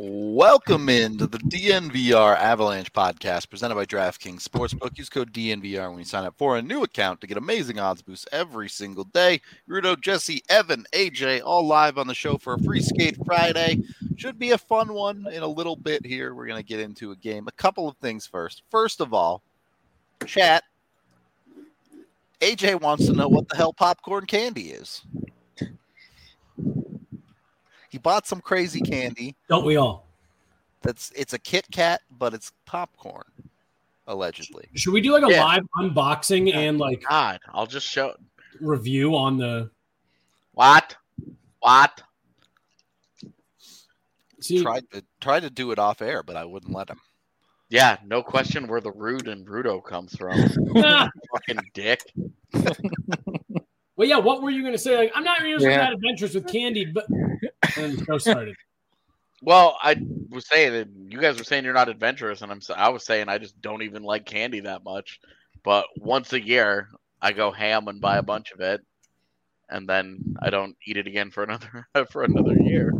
Welcome into the DNVR Avalanche podcast presented by DraftKings Sportsbook. Use code DNVR when you sign up for a new account to get amazing odds boosts every single day. Rudo, Jesse, Evan, AJ, all live on the show for a Free Skate Friday. Should be a fun one in a little bit here. We're going to get into a game. A couple of things first. First of all, chat. AJ wants to know what the hell popcorn candy is. He bought some crazy candy. Don't we all? It's a Kit Kat, but it's popcorn, allegedly. Should we do like a live unboxing and like God, I'll just show review on the what? See, Tried to do it off air, but I wouldn't let him. Yeah, no question where the rude and Rudo comes from. Fucking dick. Well, yeah, what were you going to say? Like, I'm not usually that adventurous with candy, but and then the show started. Well, I was saying that you guys were saying you're not adventurous, and I was saying I just don't even like candy that much. But once a year, I go ham and buy a bunch of it, and then I don't eat it again for another year.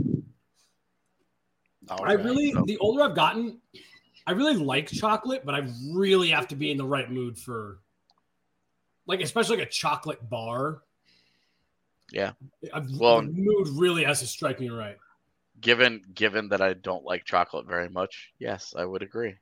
The older I've gotten, I really like chocolate, but I really have to be in the right mood for, like, especially like a chocolate bar. Yeah. The mood really has to strike me right. Given that I don't like chocolate very much, yes, I would agree.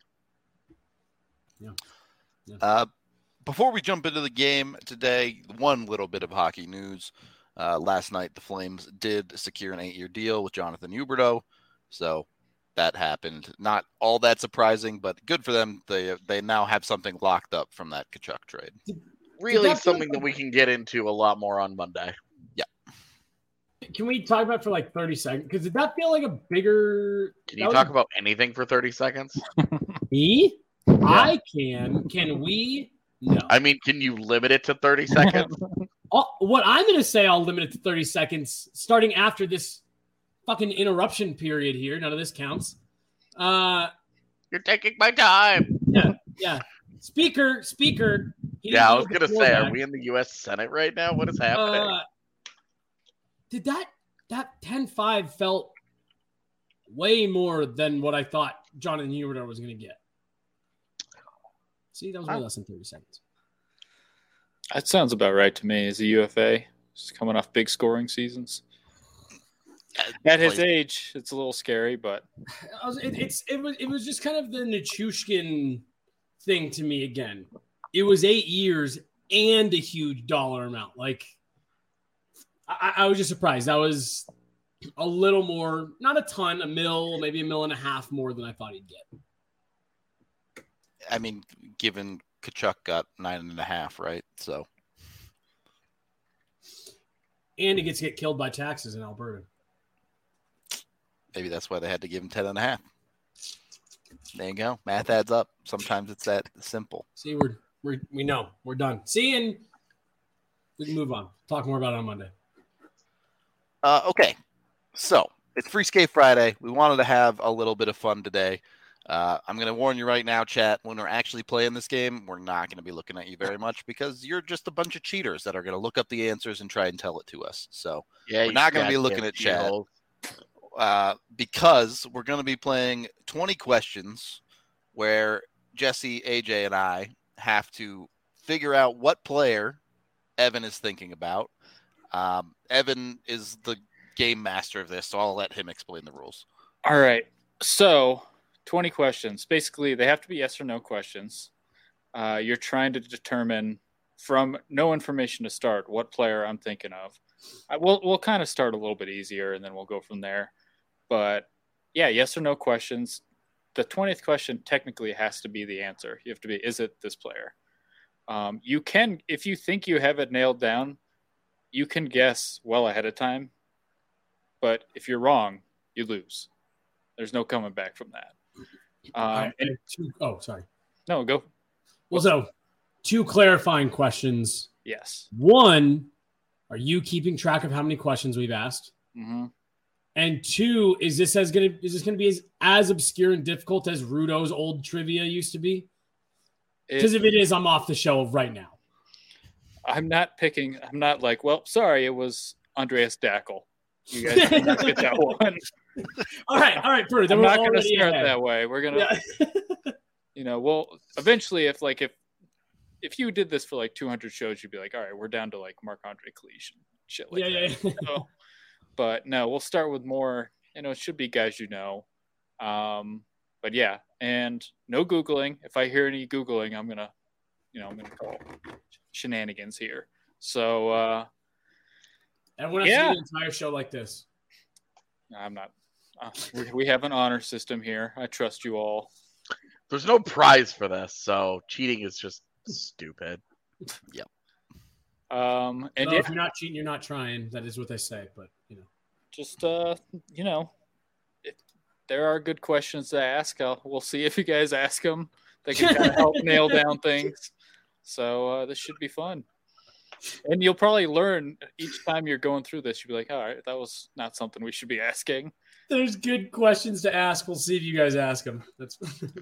Yeah. Before we jump into the game today, one little bit of hockey news. Last night, the Flames did secure an 8-year deal with Jonathan Huberdeau, so that happened. Not all that surprising, but good for them. They now have something locked up from that Tkachuk trade. Really something that we can get into a lot more on Monday. Yeah. Can we talk about it for like 30 seconds? Because did that feel like a bigger... Can you talk about anything for 30 seconds? Me? Yeah. I can. Can we? No. I mean, can you limit it to 30 seconds? What I'm going to say, I'll limit it to 30 seconds starting after this fucking interruption period here. None of this counts. You're taking my time. Yeah. Speaker. Yeah, I was going to say, are we in the U.S. Senate right now? What is happening? Did that 10-5 felt way more than what I thought Jonathan Huberdeau was going to get. See, that was way less than 30 seconds. That sounds about right to me. As a UFA, just coming off big scoring seasons. At his age, it's a little scary, but it was just kind of the Nichushkin thing to me again. It was 8 years and a huge dollar amount. Like, I was just surprised. That was a little more, not a ton, maybe $1.5 million more than I thought he'd get. I mean, given Tkachuk got 9.5, right? So, and he gets to get killed by taxes in Alberta. Maybe that's why they had to give him 10.5. There you go. Math adds up. Sometimes it's that simple. See, we know we're done. See, and we can move on. Talk more about it on Monday. Okay, so it's Free Skate Friday. We wanted to have a little bit of fun today. I'm going to warn you right now, chat, when we're actually playing this game, we're not going to be looking at you very much because you're just a bunch of cheaters that are going to look up the answers and try and tell it to us. So we're not going to be looking at chat because we're going to be playing 20 questions where Jesse, AJ, and I have to figure out what player Evan is thinking about. Evan is the game master of this, so I'll let him explain the rules. All right. So 20 questions. Basically, they have to be yes or no questions. You're trying to determine from no information to start what player I'm thinking of. We'll kind of start a little bit easier, and then we'll go from there. But, yeah, yes or no questions. The 20th question technically has to be the answer. You have to be, is it this player? You can, if you think you have it nailed down, you can guess well ahead of time. But if you're wrong, you lose. There's no coming back from that. Sorry. No, go. Well, so 2 clarifying questions. Yes. 1, are you keeping track of how many questions we've asked? Mm-hmm. And 2, is this going to be as obscure and difficult as Rudo's old trivia used to be? Because if it is, I'm off the show right now. I'm not like, well, sorry, it was Andreas Dackel. You guys did not get that one. All right, Purdy. I'm not going to start that way. We're going to, well, eventually, if you did this for like 200 shows, you'd be like, all right, we're down to like Marc-Andre Cliche and shit like that. Yeah. So, but no, we'll start with more. It should be guys But yeah, and no Googling. If I hear any Googling, I'm gonna call shenanigans here. So everyone has to do the entire show like this. I'm not. We have an honor system here. I trust you all. There's no prize for this, so cheating is just stupid. Yep. If you're not cheating, you're not trying. That is what they say. But just if there are good questions to ask. We'll see if you guys ask them. They can kind of help nail down things. So this should be fun. And you'll probably learn each time you're going through this. You'll be like, all right, that was not something we should be asking. There's good questions to ask. We'll see if you guys ask them. That's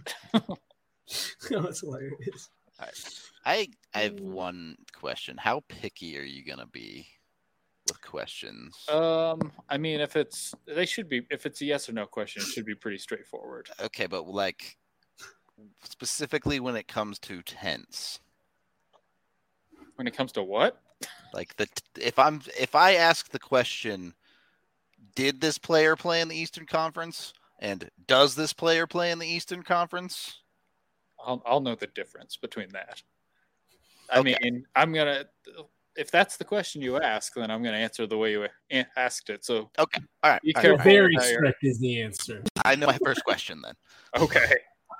hilarious. All right. I have one question. How picky are you going to be with questions? I mean, if it's a yes or no question, it should be pretty straightforward. Okay, but like specifically when it comes to tense. When it comes to what? Like if I ask the question, did this player play in the Eastern Conference? And does this player play in the Eastern Conference? I'll know the difference between that. I mean, I'm gonna. If that's the question you ask, then I'm gonna answer the way you asked it. So okay, all right. Be careful. Very strict is the answer. I know my first question then. Okay.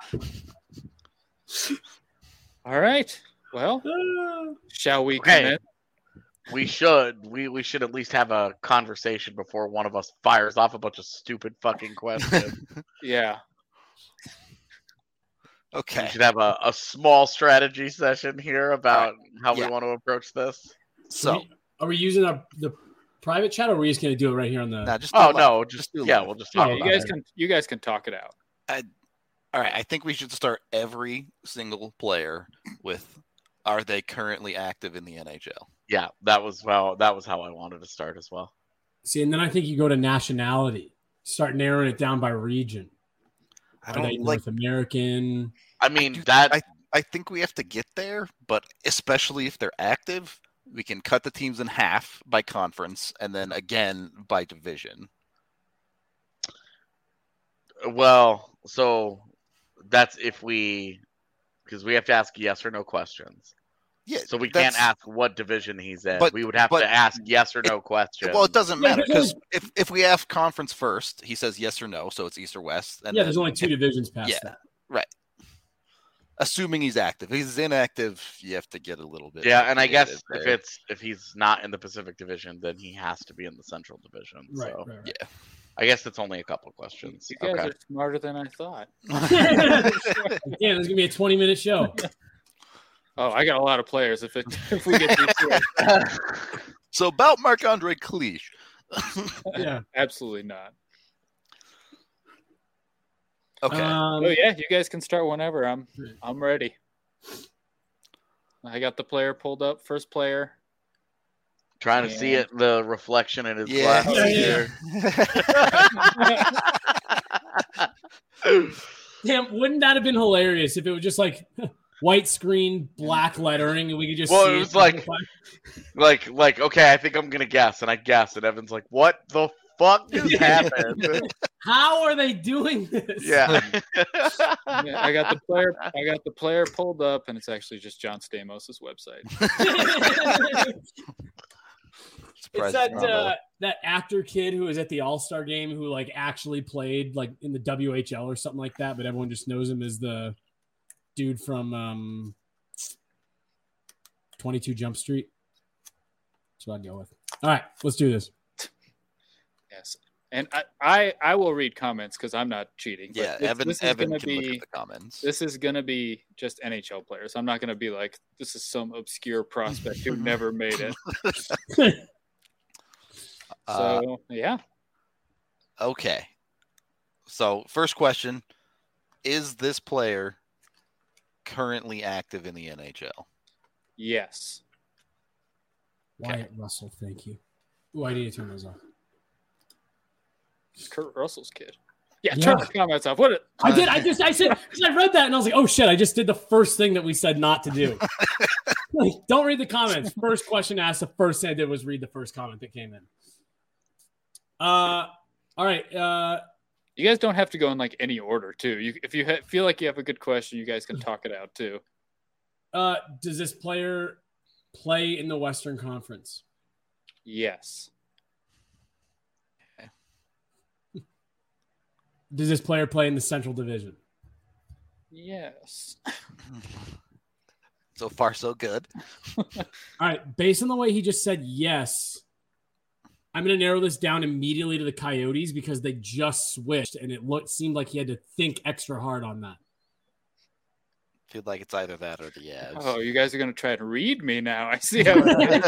All right. Well, shall we commit? We should. We should at least have a conversation before one of us fires off a bunch of stupid fucking questions. Yeah. Okay. We should have a small strategy session here about how we want to approach this. So, are we using the private chat, or are we just going to do it right here on the? We'll just talk about it. You guys can talk it out. All right. I think we should start every single player with, are they currently active in the NHL? Yeah, that was how I wanted to start as well. See, and then I think you go to nationality, start narrowing it down by region. Are they North American? I mean, I think we have to get there, but especially if they're active, we can cut the teams in half by conference and then again by division. Well, so that's because we have to ask yes or no questions. Yeah, so we can't ask what division he's in. But we would have to ask yes or no questions. Well, it doesn't matter because if we ask conference first, he says yes or no, so it's East or West. And there's only two divisions past that. Right. Assuming he's active. If he's inactive, you have to get a little bit. Yeah, and I guess if he's not in the Pacific Division, then he has to be in the Central Division. Right. Yeah. I guess it's only a couple questions. You guys are smarter than I thought. Yeah, there's gonna be a 20-minute show. Oh, I got a lot of players. If we get these two. So about Marc-Andre Cliche. Yeah, absolutely not. Okay. You guys can start whenever. I'm ready. I got the player pulled up. First player. Trying to see it, the reflection in his glasses here. Damn, wouldn't that have been hilarious if it was just like white screen, black lettering, and we could just see it was like, okay, I think I'm gonna guess, and I guess, and Evan's like, what the fuck just happened? How are they doing this? Yeah. I got the player pulled up, and it's actually just John Stamos' website. It's that actor kid who was at the All-Star game who like actually played like in the WHL or something like that, but everyone just knows him as the dude from 22 Jump Street. That's what I'd go with. All right, let's do this. Yes, and I will read comments because I'm not cheating. Yeah, Evan can look at the comments. This is going to be just NHL players. I'm not going to be like, this is some obscure prospect who never made it. So, yeah. Okay. So, first question, is this player currently active in the NHL? Yes. Wyatt Russell, thank you. Oh, I need to turn those off. It's Kurt Russell's kid. Yeah, Yeah. turn the comments off. What? I did. I said, because I read that and I was like, oh shit, I just did the first thing that we said not to do. Like, don't read the comments. First question asked, the first thing I did was read the first comment that came in. All right. You guys don't have to go in like any order, too. If you feel like you have a good question, you guys can talk it out, too. Does this player play in the Western Conference? Yes. Does this player play in the Central Division? Yes. So far, so good. All right. Based on the way he just said yes, I'm going to narrow this down immediately to the Coyotes because they just switched and it seemed like he had to think extra hard on that. Feel like it's either that or the Avs. Oh, you guys are going to try to read me now. I see how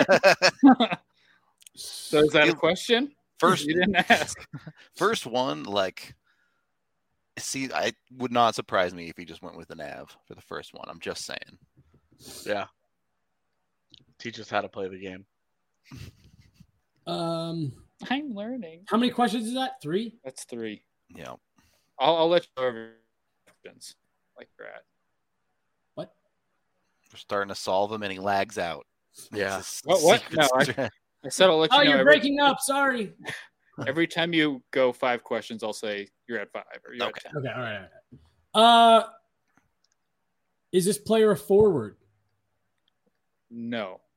So is that a question? First, You didn't ask. first one, like, see, I would not surprise me if he just went with an Av for the first one. I'm just saying. Yeah. Teach us how to play the game. I'm learning. How many questions is that? 3? That's 3. Yeah. I'll let you know every questions like you're at. What? We're starting to solve him and he lags out. Yeah. It's a What? secret No, strat. I said I'll let you Oh, know. you're breaking up. Sorry. Every time you go 5 questions, I'll say you're at 5 or you're Okay. at 10. Okay. All right. Is this player a forward? No.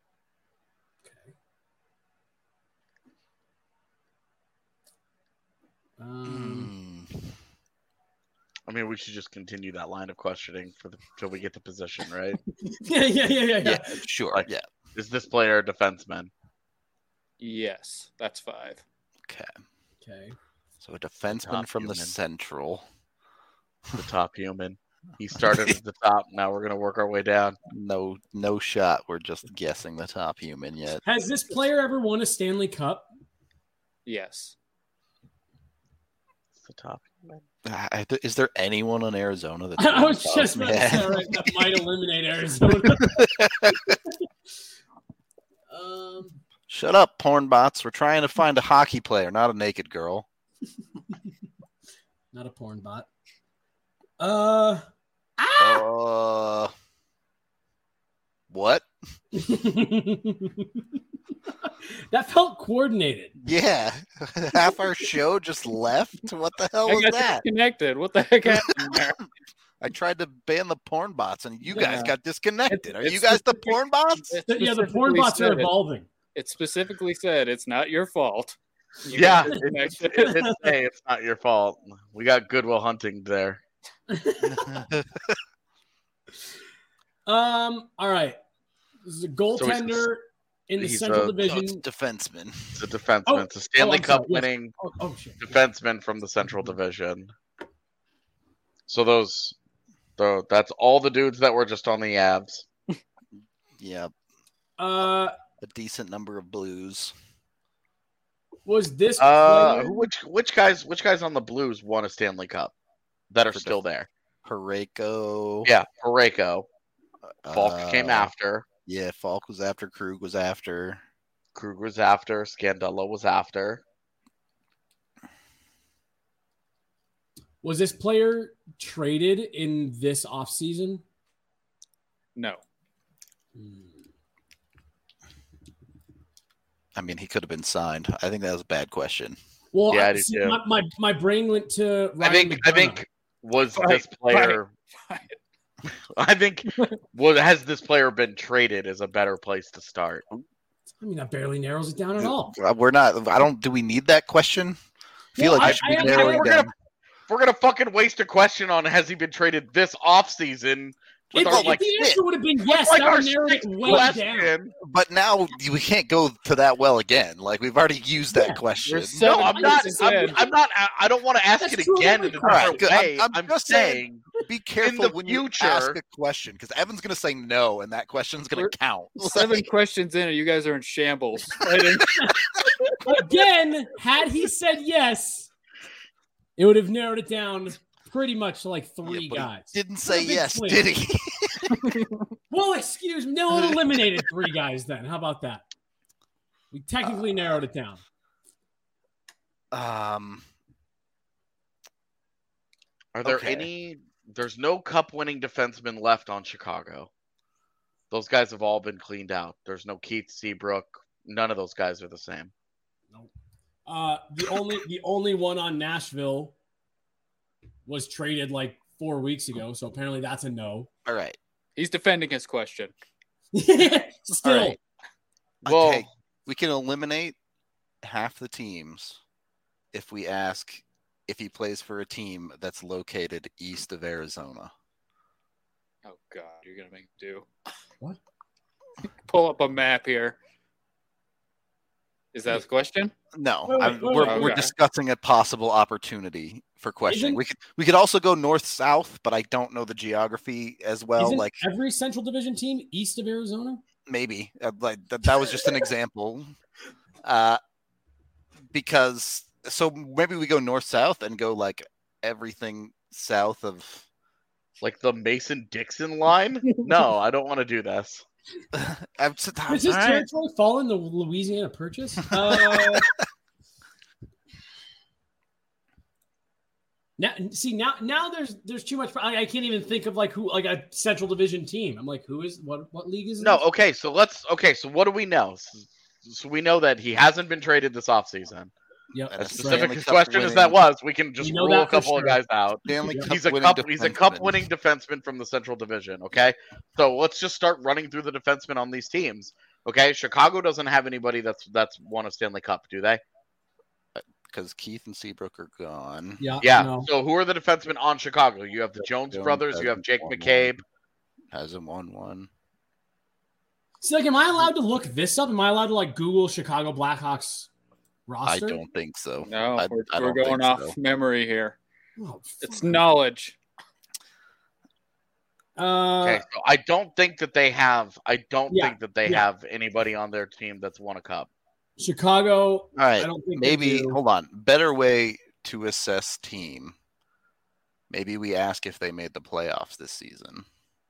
I mean, we should just continue that line of questioning till we get the position, right? Yeah. Yeah, sure. Like- Yeah. Is this player a defenseman? Yes, that's 5. Okay. So a defenseman Top from the human. Central. The top human. He started at the top. Now we're going to work our way down. No shot. We're just guessing the top human yet. Has this player ever won a Stanley Cup? Yes. It's the top human. Is there anyone in Arizona that's I was won just cups, about to say, man? all right, that might eliminate Arizona. Shut up, porn bots. We're trying to find a hockey player, not a naked girl. Not a porn bot. What? That felt coordinated. Yeah. Half our show just left? What the hell I was got that? disconnected. What the heck happened there? I tried to ban the porn bots and you guys Yeah. got disconnected. Are It's you guys the specific- porn bots? It Yeah, the porn specifically bots are said it. evolving. It specifically said it's not your fault. You Yeah, got disconnected. it's not your fault. We got Goodwill Hunting there. All right. This is a goaltender in the he's Central a- Oh, Division. it's defenseman. It's a defenseman. Oh, It's a Stanley I'm sorry, Cup yes. winning Oh shit. defenseman from the Central Division. So that's all the dudes that were just on the Avs. Yeah, Uh, a decent number of blues. was this player? Which guys on the Blues won a Stanley Cup that are For still there? Parayko. Yeah, Parayko. Falk came after. Yeah, Falk was after. Krug was after. Krug was after. Scandella was after. Was this player traded in this offseason? No. I mean, he could have been signed. I think that was a bad question. Well, Yeah, I do see, too. my brain went to I Ryan think McDonough. was Right, this player. right. I think has this player been traded is a better place to start. I mean, that barely narrows it down at all. We're not. I don't. Do we need that question? I feel Well, like I- you should be I- narrowing we're down. If we're gonna fucking waste a question on has he been traded this offseason with our If the answer would have been yes, like that our would narrow it sixth way down. question. But now we can't go to that well again. Like we've already used that Yeah, question. we're so- No, I'm not. questions in. I'm not. I don't want to ask That's it true of again every in a question. different Alright, way. I'm I'm just saying. Be careful the when you future- ask a question because Evan's going to say no, and that question's going We're- to count. 7 Like, questions in, and you guys are in shambles. Right? Again, had he said yes, it would have narrowed it down pretty much to like 3 yeah, but he guys. didn't say What a big yes, swing. did he? Well, excuse me. No, it eliminated 3 guys then. How about that? We technically narrowed it down. Are there Okay. any? There's no cup-winning defensemen left on Chicago. Those guys have all been cleaned out. There's no Keith Seabrook. None of those guys are the same. Nope. The only one on Nashville was traded like 4 weeks ago, so apparently that's a no. All right. He's defending his question. Still, All right. Well, Okay. We can eliminate half the teams if we ask if he plays for a team that's located east of Arizona. Oh God, you're gonna make do. What? Pull up a map here. Is that the question? No, Wait, we're okay. discussing a possible opportunity for questioning. We could also go north south, but I don't know the geography as well. isn't Like every Central Division team east of Arizona? maybe like that was just an example. Because so maybe we go north south and go like everything south of. like the Mason-Dixon line? No, I don't want to do this. Does this territory fall in the Louisiana Purchase? Now there's too much. I can't even think of like who, like a Central Division team. I'm like, who is what league is it? No, okay, so what do we know? So we know that he hasn't been traded this offseason. Yep. And As a specific Stanley as Cup question as winning- that was, we can just We know rule a that for couple of sure. guys out. Stanley Yeah. Cup He's a winning cup defenseman. winning defenseman from the Central Division, okay? So let's just start running through the defensemen on these teams. Okay, Chicago doesn't have anybody that's won a Stanley Cup, do they? because Keith and Seabrook are gone. Yeah. No. So who are the defensemen on Chicago? You have the Jones brothers, you have Jake McCabe. Hasn't won one. So like, am I allowed to look this up? Am I allowed to like Google Chicago Blackhawks roster? I don't think so. No, I we're don't going think off so. memory here. Oh, It's fuck. knowledge. Okay, so I don't think that they have. I don't Yeah, think that they yeah. have anybody on their team that's won a cup. Chicago. All right, I don't think they maybe do. hold on. Better way to assess team. Maybe we ask if they made the playoffs this season.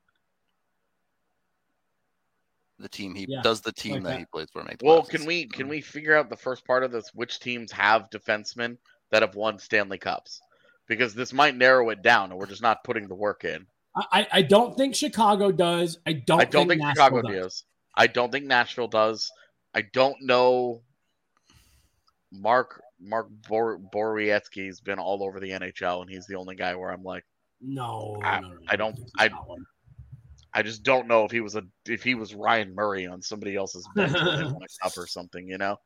The team Yeah, does the team like that that. he plays for make the Well, playoffs can this we season? can we figure out the first part of this? Which teams have defensemen that have won Stanley Cups? Because this might narrow it down, and we're just not putting the work in. I don't think Chicago does. I don't think Nashville Chicago does. does. I don't think Nashville does. I don't know. Mark Borowiecki's been all over the NHL, and he's the only guy where I'm like, No, I don't- think I- it's that one. I just don't know if he was Ryan Murray on somebody else's bench when they won a cup or something, you know.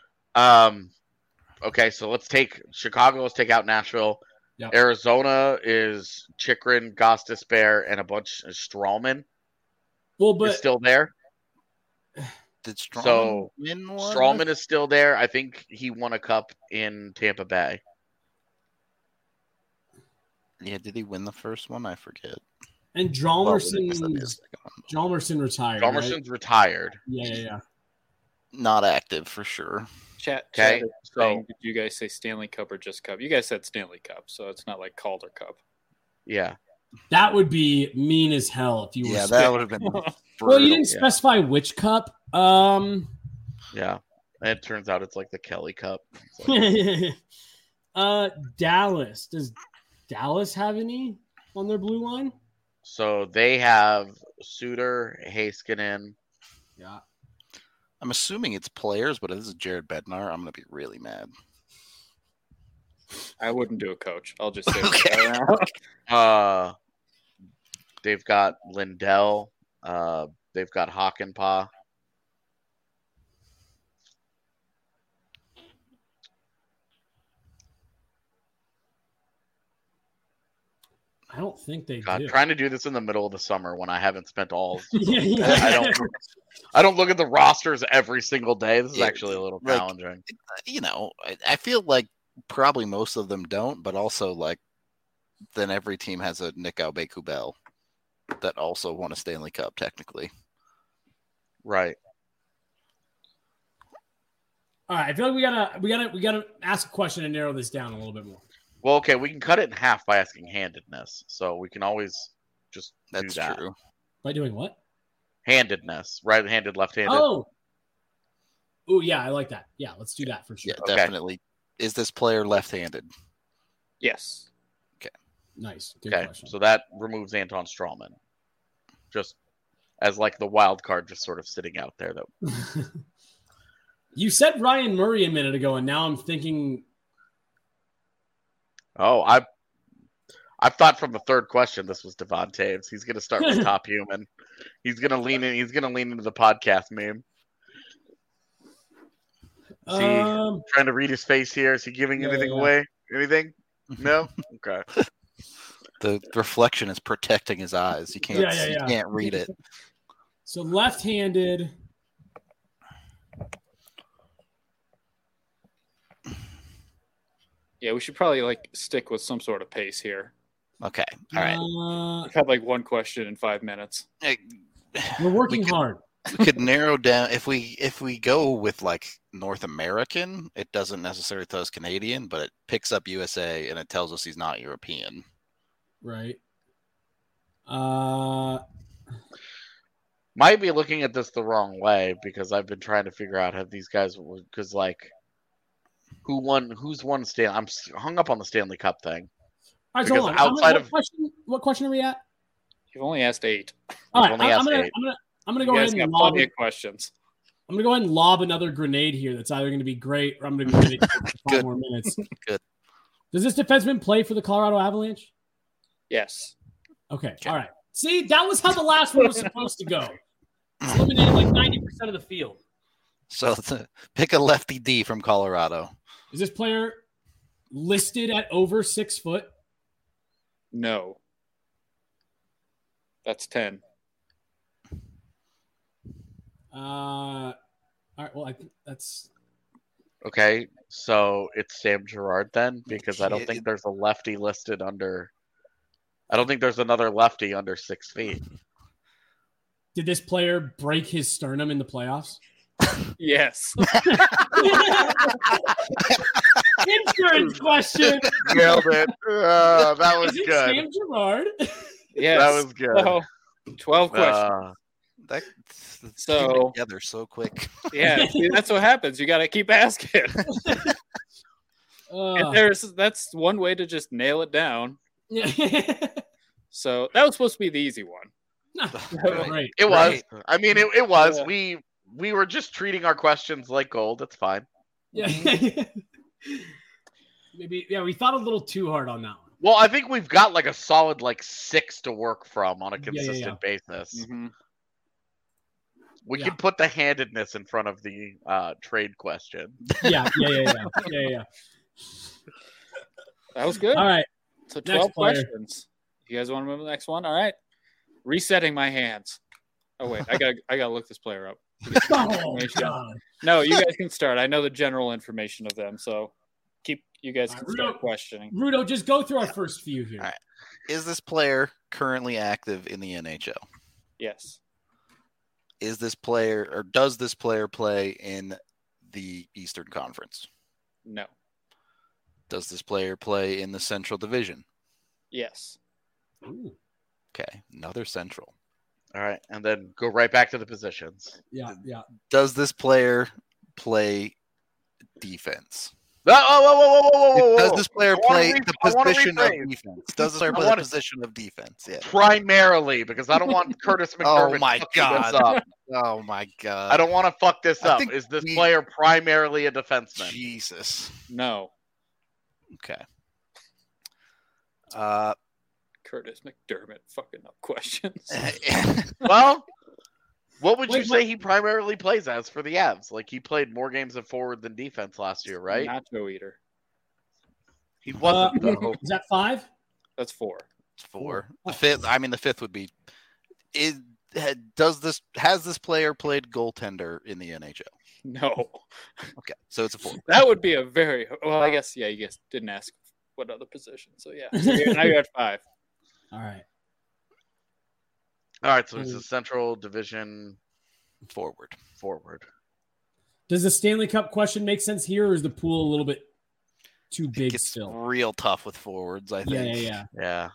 Okay, so let's take Chicago. Let's take out Nashville. Yep. Arizona is Chikrin, Gostisbehere, and a bunch of Strawman Well, is but still there. Did Strawman So, win one? Strawman is still there. I think he won a cup in Tampa Bay. Yeah, did he win the first one? I forget. and Well, I guess that is Jalmerson the second one. Jalmerson retired. right? Chalmerson's retired. Yeah. Not active for sure. Chat. Okay, Chat is saying, did you guys say Stanley Cup or just Cup? You guys said Stanley Cup, so it's not like Calder Cup. Yeah. That would be mean as hell if you were. Yeah, that would have been. Well, you brutal. didn't specify which cup. Yeah. And it turns out it's like the Kelly Cup. It's like- Dallas. Does Dallas have any on their blue line? so they have Suter, Heiskanen. Yeah. I'm assuming it's players, but if this is Jared Bednar, I'm gonna be really mad. I wouldn't do a coach. I'll just say Okay. that right now. They've got Lindell. They've got Hakanpää. I don't think they God, do. trying to do this in the middle of the summer when I haven't spent all. Yeah. I don't look at the rosters every single day. This is Yeah, actually a little like- challenging. You know, I feel like probably most of them don't, but also like then every team has a Nick Aubé-Kubel that also won a Stanley Cup technically. Right. All right. I feel like we gotta ask a question and narrow this down a little bit more. Well, okay, we can cut it in half by asking handedness. So we can always just That's do that. true. By doing what? Handedness, right-handed, left-handed. Oh. Yeah, I like that. Yeah, let's do that for sure. Yeah, Okay. definitely Is this player left-handed? Yes. Nice. Good Okay, question. so that removes Anton Strawman, just as like the wild card, just sort of sitting out there. Though You said Ryan Murray a minute ago, and now I'm thinking. Oh, I thought from the third question this was Devon Taves. He's going to start with top human. He's going to lean in. He's going to lean into the podcast meme. Is he trying to read his face here? Is he giving anything away? Anything? No. Okay. The reflection is protecting his eyes. You can't. You can't read it. So left-handed. Yeah, we should probably like stick with some sort of pace here. Okay. All right. We've had like one question in 5 minutes. We're working hard. We could narrow down if we go with like North American. It doesn't necessarily tell us Canadian, but it picks up USA and it tells us he's not European. Right. Might be looking at this the wrong way because I've been trying to figure out have these guys because like who's won Stanley. I'm hung up on the Stanley Cup thing. All right, so hold on. What question are we at? You've only asked 8. All right, I'm gonna go ahead and lob questions. I'm gonna go ahead and lob another grenade here. That's either going to be great or I'm going to be ready for 5 more minutes. Good. Does this defenseman play for the Colorado Avalanche? Yes. Okay. All right. See, that was how the last one was supposed to go. It's eliminated like 90% of the field. So pick a lefty D from Colorado. Is this player listed at over 6 foot? No. That's 10. All right. Well, I think that's Okay, so it's Sam Girard then, because I don't think there's a lefty listed under. I don't think there's another lefty under 6 feet. Did this player break his sternum in the playoffs? Yes. Insurance question. Nailed it. That was Is it good. Sam Girard? Yes. That was good. So, 12 questions. That's So- together so quick. Yeah, see, that's what happens. You got to keep asking. And that's one way to just nail it down. Yeah. So that was supposed to be the easy one. Right. It was. Right. I mean, it was. Yeah. We were just treating our questions like gold. It's fine. Yeah. Maybe. Yeah, we thought a little too hard on that one. Well, I think we've got like a solid 6 to work from on a Yeah, consistent basis. Mm-hmm. We can put the handedness in front of the trade question. Yeah. That was good. All right. So Next 12 player. questions. You guys want to move to the next one? All right. Resetting my hands. Oh wait, I gotta look this player up. Oh, God. No, you guys can start. I know the general information of them, so you guys can start Rudo. questioning. Rudo, just go through our first few here. All right. Is this player currently active in the NHL? Yes. Is this player or does this player play in the Eastern Conference? No. Does this player play in the Central Division? Yes. Ooh. Okay, another Central. All right, and then go right back to the positions. Yeah. Does this player play defense? Whoa. Does this player play the position of rephrase. defense? Does this player play the position of defense? Yeah. Primarily, because I don't want Curtis McDermott Oh my fucking God. this up. Oh my God. I don't want to fuck this I up. think Is this player primarily a defenseman? Jesus. No. Okay. Curtis McDermott fucking up questions. Well, what would you Wait, say he primarily plays as for the Avs? Like he played more games at forward than defense last year, right? Nacho eater. He wasn't. though. Is that 5? That's 4. It's 4. The fifth. I mean, the fifth would be. Has this player played goaltender in the NHL? No. Okay, so it's a 4. That would be a very well. I guess you guys didn't ask what other position. So yeah. So now you're at 5. All right. All right, so it's a Central Division Forward. Does the Stanley Cup question make sense here, or is the pool a little bit too big It's still? real tough with forwards, I think. Yeah.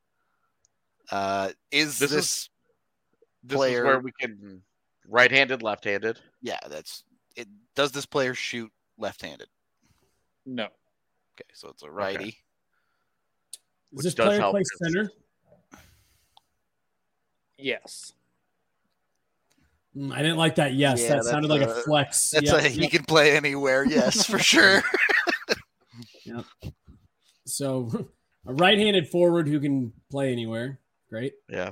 Is This this is where we can right-handed, left-handed. Yeah, that's it. Does this player shoot left-handed? No. Okay, so it's a righty. Okay. Does this does player help play because- center? Yes. I didn't like that. Yes, Yeah, that sounded like a flex. He can play anywhere. Yes, for sure. So, a right-handed forward who can play anywhere. Great. Yeah.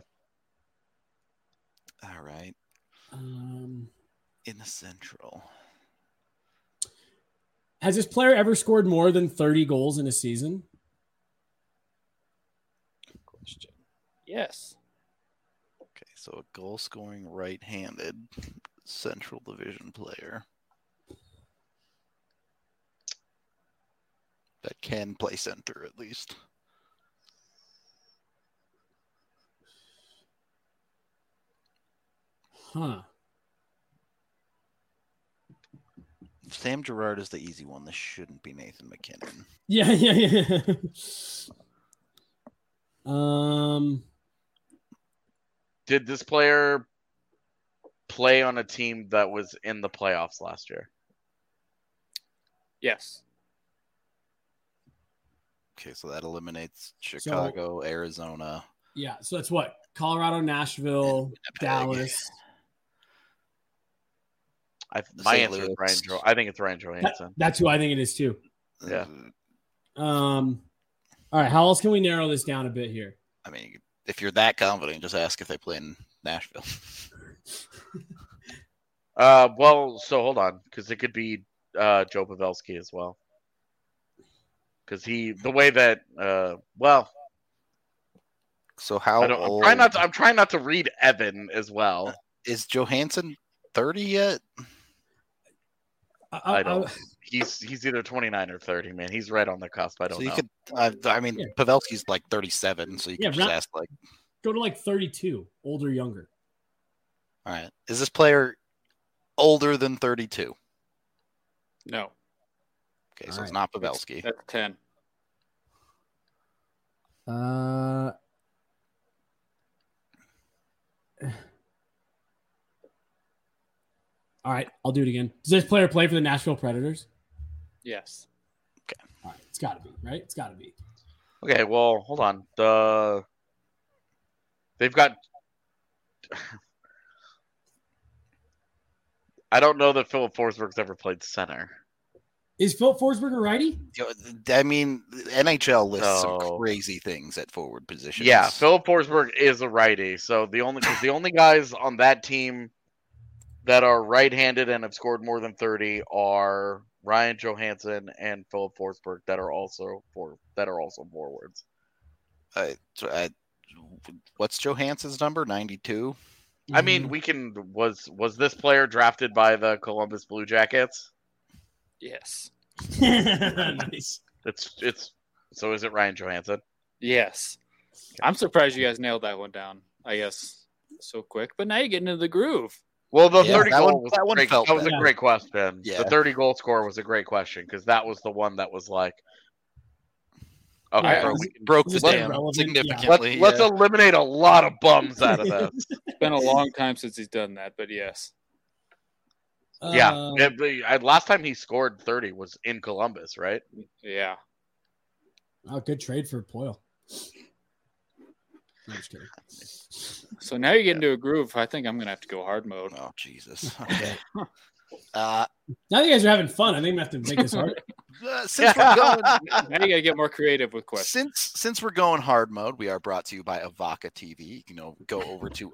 All right. In the Central. Has this player ever scored more than 30 goals in a season? Good question. Yes. Okay, so a goal-scoring right-handed Central Division player that can play center at least. Huh. Sam Girard is the easy one. This shouldn't be Nathan McKinnon. Yeah. Did this player play on a team that was in the playoffs last year? Yes. Okay, so that eliminates Chicago, Arizona. Yeah, so that's what? Colorado, Nashville, Winnipeg. Dallas. My St. answer is Louis. Ryan. I think it's Ryan Johansson. That's who I think it is too. Yeah. All right, how else can we narrow this down a bit here? I mean, if you're that confident, just ask if they play in Nashville. Well, so hold on, because it could be Joe Pavelski as well. Because the way that So how old I'm trying not to read Evan as well. is Johansson 30 yet? I don't. He's either 29 or 30, man. He's right on the cusp. I don't So you know. could Pavelski's like 37, so you could just ask like, go to like 32, older, younger. all right, is this player older than 32? No. Okay, so All it's right. not Pavelski. That's 10. All right, I'll do it again. Does this player play for the Nashville Predators? Yes. All right, it's got to be, right? It's got to be. Okay, well, hold on. They've got. I don't know that Philip Forsberg's ever played center. Is Philip Forsberg a righty? I mean, NHL lists some No. crazy things at forward positions. Yeah, Philip Forsberg is a righty. So the only guys on that team that are right-handed and have scored more than 30 are Ryan Johansson and Philip Forsberg that are also forwards. What's Johansson's number? 92. I mean, we can. Was this player drafted by the Columbus Blue Jackets? Yes. Nice. It's. So is it Ryan Johansson? Yes. I'm surprised you guys nailed that one down, I guess, so quick. But now you're getting into the groove. Well, the Yeah, 30 that goal one- was that a one great, felt that was a bad. great question. Yeah. The 30 goal score was a great question because that was the one that was like, okay, Yeah, broke the Is this dam irrelevant? significantly. let's eliminate a lot of bums out of this. It's been a long time since he's done that, but yes. Last time he scored 30 was in Columbus, right? Yeah. Oh, good trade for Poyle. No, I'm just kidding. So now you're getting into a groove. I think I'm going to have to go hard mode. Oh Jesus. Okay. Now you guys are having fun. I think I'm gonna have to make this hard. Since we're going, Now you got to get more creative with questions. since we're going hard mode, we are brought to you by Avaca TV. You can go over to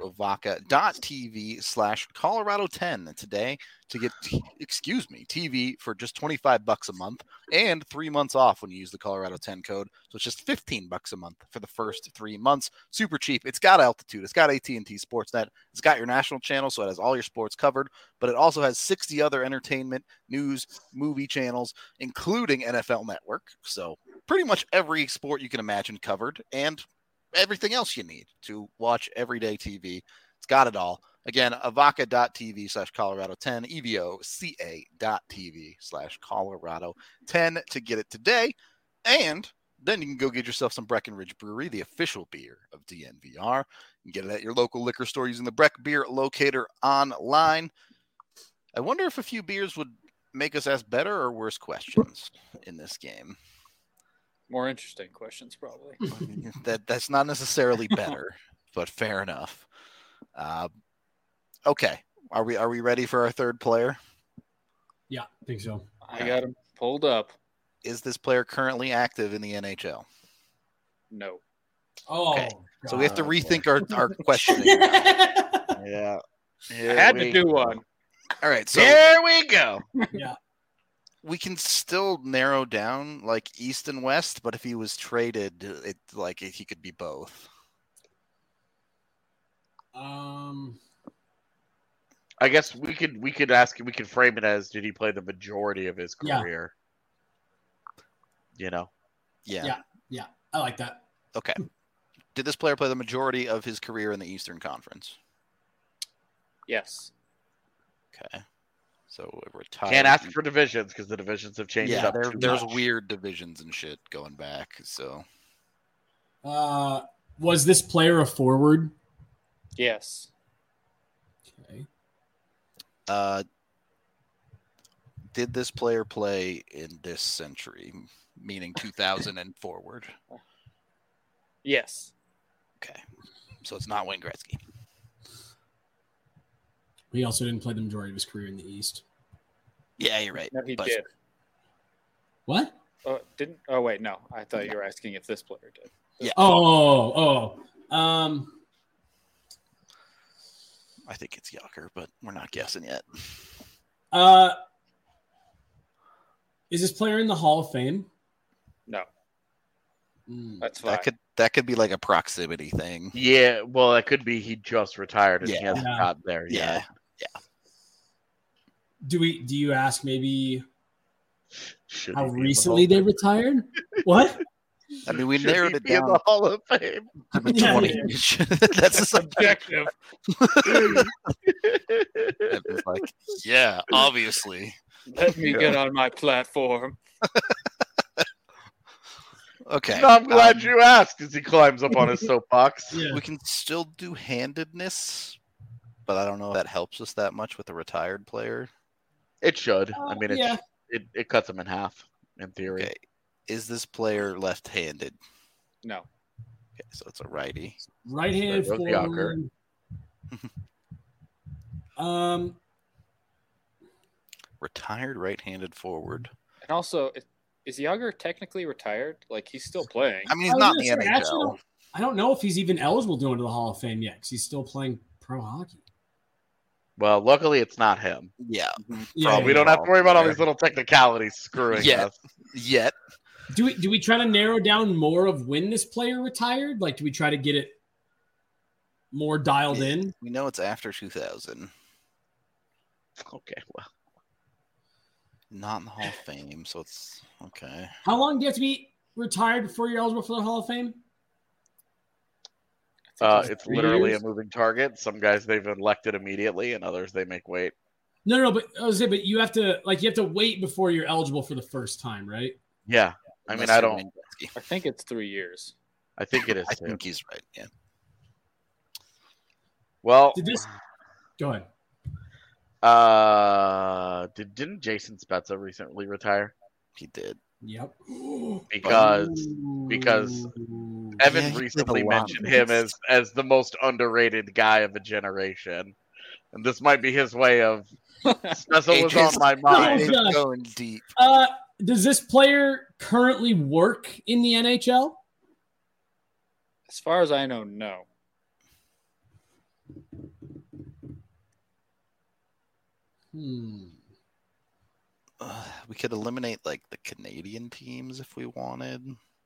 avaca.tv/Colorado10 today to get TV for just $25 a month and 3 months off when you use the Colorado 10 code. So it's just $15 a month for the first 3 months. Super cheap. It's got Altitude. It's got AT&T Sportsnet. It's got your national channel, so it has all your sports covered. But it also has 60 other entertainment, news, movie channels, including NFL Network. So pretty much every sport you can imagine covered and everything else you need to watch everyday TV. It's got it all. Again, avaca.tv/Colorado10, evoca.tv/Colorado10 to get it today. And then you can go get yourself some Breckenridge Brewery, the official beer of DNVR. You can get it at your local liquor store using the Breck Beer Locator online. I wonder if a few beers would make us ask better or worse questions in this game? More interesting questions, probably. That's not necessarily better, but fair enough. Okay, are we ready for our third player? Yeah, I think so. I got him pulled up. Is this player currently active in the NHL? No. Oh, Okay. God. So we have to rethink our questioning. Yeah. I had to do one. All right, so There we go. Yeah. we can still narrow down like East and West, but if he was traded, he could be both. I guess we could ask, we could frame it as, did he play the majority of his Yeah. career? You know? Yeah. I like that. Okay. Did this player play the majority of his career in the Eastern Conference? Yes. Okay. So retired. Can't ask for divisions because the divisions have changed Yeah, up too there's much. weird divisions and shit going back. So Was this player a forward? Yes. Okay. did this player play in this century, meaning 2000 and forward? Yes. Okay. So it's not Wayne Gretzky. He also didn't play the majority of his career in the East. Yeah, you're right. No, he But- did. What? Didn't? Oh wait, no. I thought you were asking if this player did. Yeah. Oh. I think it's Yager, but we're not guessing yet. Is this player in the Hall of Fame? No. Mm. That's fine. That could be like a proximity thing. Yeah, well, that could be he just retired and he Yeah. hasn't got there Yeah. yet. Do you ask maybe Should how he be in the recently Hall they of retired? What? I mean, we Fame? Should narrowed he it be in down the Hall of Fame? to the Yeah, 20. yeah. That's a Subjective. It's like, yeah, obviously. Let me get on my platform. Okay. No, I'm glad you asked as he climbs up on his soapbox. Yeah. We can still do handedness, but I don't know if that helps us that much with a retired player. It should. I mean, yeah. it cuts him in half, in theory. Okay. Is this player left-handed? No. Okay, so it's a righty. Right-handed There goes Yager. forward. Retired right-handed forward. And also, is Yager technically retired? Like he's still playing. I mean, he's I was not in the gonna say, actually, NHL. I don't know if he's even eligible to go into the Hall of Fame yet because he's still playing pro hockey. Well, luckily it's not him. Yeah. Yeah, We don't have to worry about all these little technicalities screwing Yeah. us. Yet. Do we try to narrow down more of when this player retired? Like, do we try to get it more dialed in? We know it's after 2000. Okay, well, Not in the Hall of Fame, so it's okay. How long do you have to be retired before you're eligible for the Hall of Fame? it's 3 literally years? a moving target. Some guys they've elected immediately, and others they make wait. No, but I was saying, but you have to wait before you're eligible for the first time, right? Yeah, I mean, Unless I you're don't. Wayne Gretzky. I think it's 3 years. I think it is I too. think he's right. Yeah. Well, Go ahead. didn't Jason Spezza recently retire? He did. Yep. Because Ooh. Evan Yeah, he recently played a lot mentioned of him this. as the most underrated guy of a generation, and this might be his way of. Spezza was on my mind. Oh, gosh. Going deep. Does this player currently work in the NHL? As far as I know, no. We could eliminate like the Canadian teams if we wanted.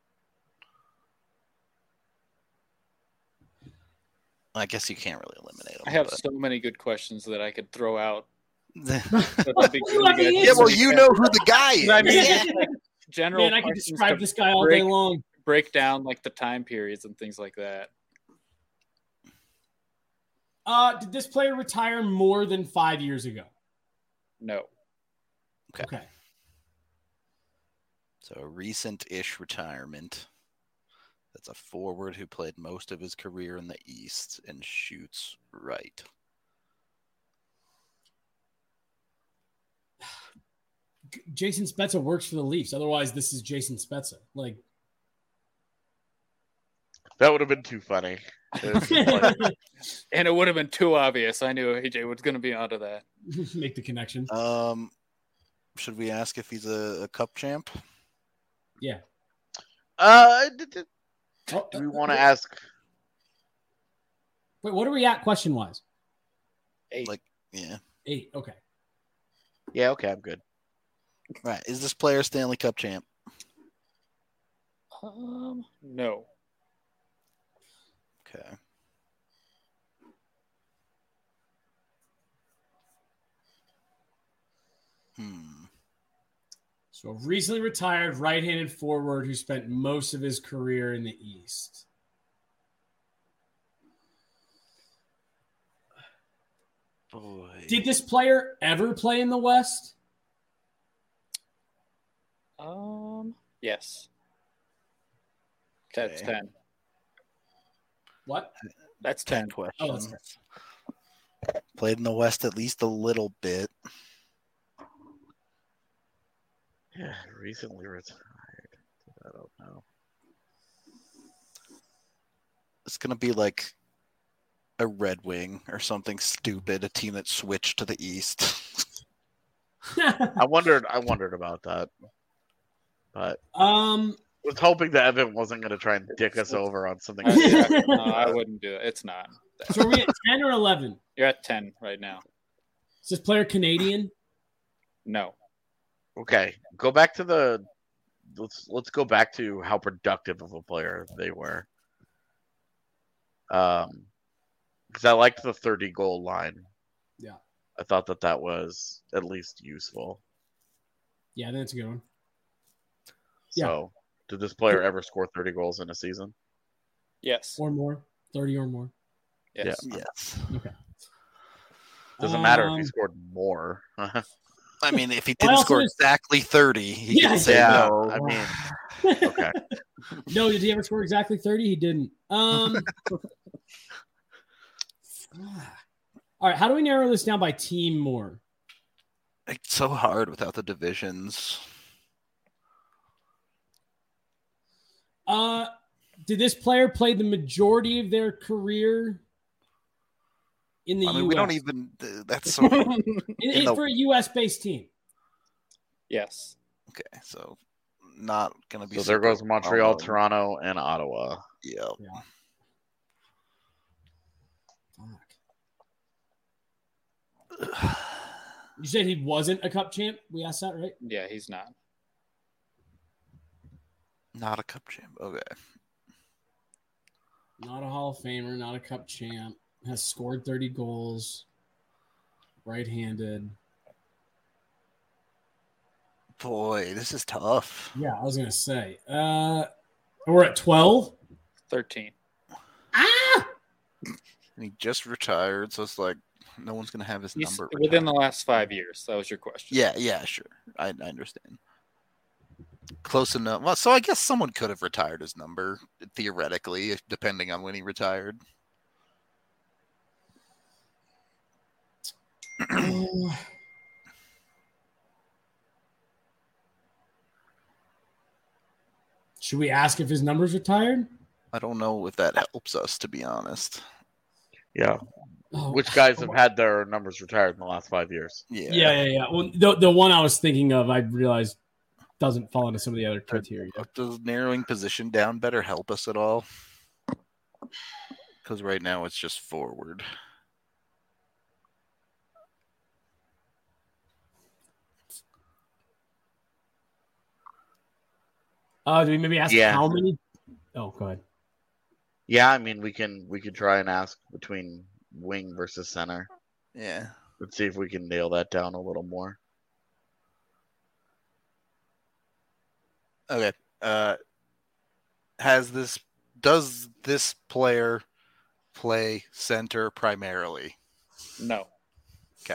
I guess you can't really eliminate them. I have so many good questions that I could throw out. but... But I'll be good to yeah, well, you know who the guy is. I mean, Yeah. general Man, I could questions describe to this guy all day long. break down like the time periods and things like that. Did this player retire more than 5 years ago? No. Okay. So a recent-ish retirement. That's a forward who played most of his career in the East and shoots right. Jason Spezza works for the Leafs. Otherwise, this is Jason Spezza. Like, That would have been too funny. And it would have been too obvious. I knew AJ was going to be onto that. make the connection. Should we ask if he's a cup champ? Yeah. Do Oh, we want to ask? Wait, what are we at question wise? 8. Like, yeah. 8. Okay. Yeah, okay, I'm good. Right. Is this player Stanley Cup champ? No. Okay. So a recently retired right-handed forward who spent most of his career in the East. Boy. Did this player ever play in the West? Yes. That's Okay. 10. What? That's 10 10. questions. that's Played in the West at least a little bit. Yeah, recently retired. I don't know. It's going to be like a Red Wing or something stupid, a team that switched to the East. I wondered about that, but was hoping that Evan wasn't going to try and dick us over on something. No, I wouldn't do it. It's not. So are we at 10 or 11? You're at 10 right now. Is this player Canadian? No. Okay, go back to the. Let's go back to how productive of a player they were. Because I liked the 30-goal line. Yeah. I thought that was at least useful. Yeah, that's a good one. So, did this player ever score 30 goals in a season? Yes. Or more. 30 or more. Yes. Yes. Okay. Doesn't matter if he scored more. I mean, if he I didn't also score just- exactly 30, he Yeah, could say yeah, no. I mean, okay. No, did he ever score exactly 30? He didn't. All right, how do we narrow this down by team more? It's so hard without the divisions. Did this player play the majority of their career in the I mean, US? we don't even. That's so. in the- for a US based team. Yes. Okay, so not gonna be. So there super goes Montreal, well-known. Toronto, and Ottawa. Yeah. Fuck. You said he wasn't a cup champ? We asked that, right? Yeah, he's not. Not a cup champ. Okay. Not a Hall of Famer, not a cup champ. Has scored 30 goals. Right-handed. Boy, this is tough. Yeah, I was going to say. We're at 12. 13. Ah! And he just retired, so it's like no one's gonna have his He's number within retired. the last 5 years. That was your question. Yeah, sure. I understand. Close enough. Well, so I guess someone could have retired his number theoretically, depending on when he retired. Should we ask if his number's retired? I don't know if that helps us, to be honest. Yeah. Oh, Which guys have had their numbers retired in the last 5 years? Yeah. Well, the one I was thinking of, I realized doesn't fall into some of the other criteria. Does narrowing position down better help us at all? Because right now it's just forward. Do we maybe ask Yeah. how many? Oh, go ahead. Yeah, I mean we could try and ask between wing versus center. Yeah. Let's see if we can nail that down a little more. Okay. Does this player play center primarily? No. Okay.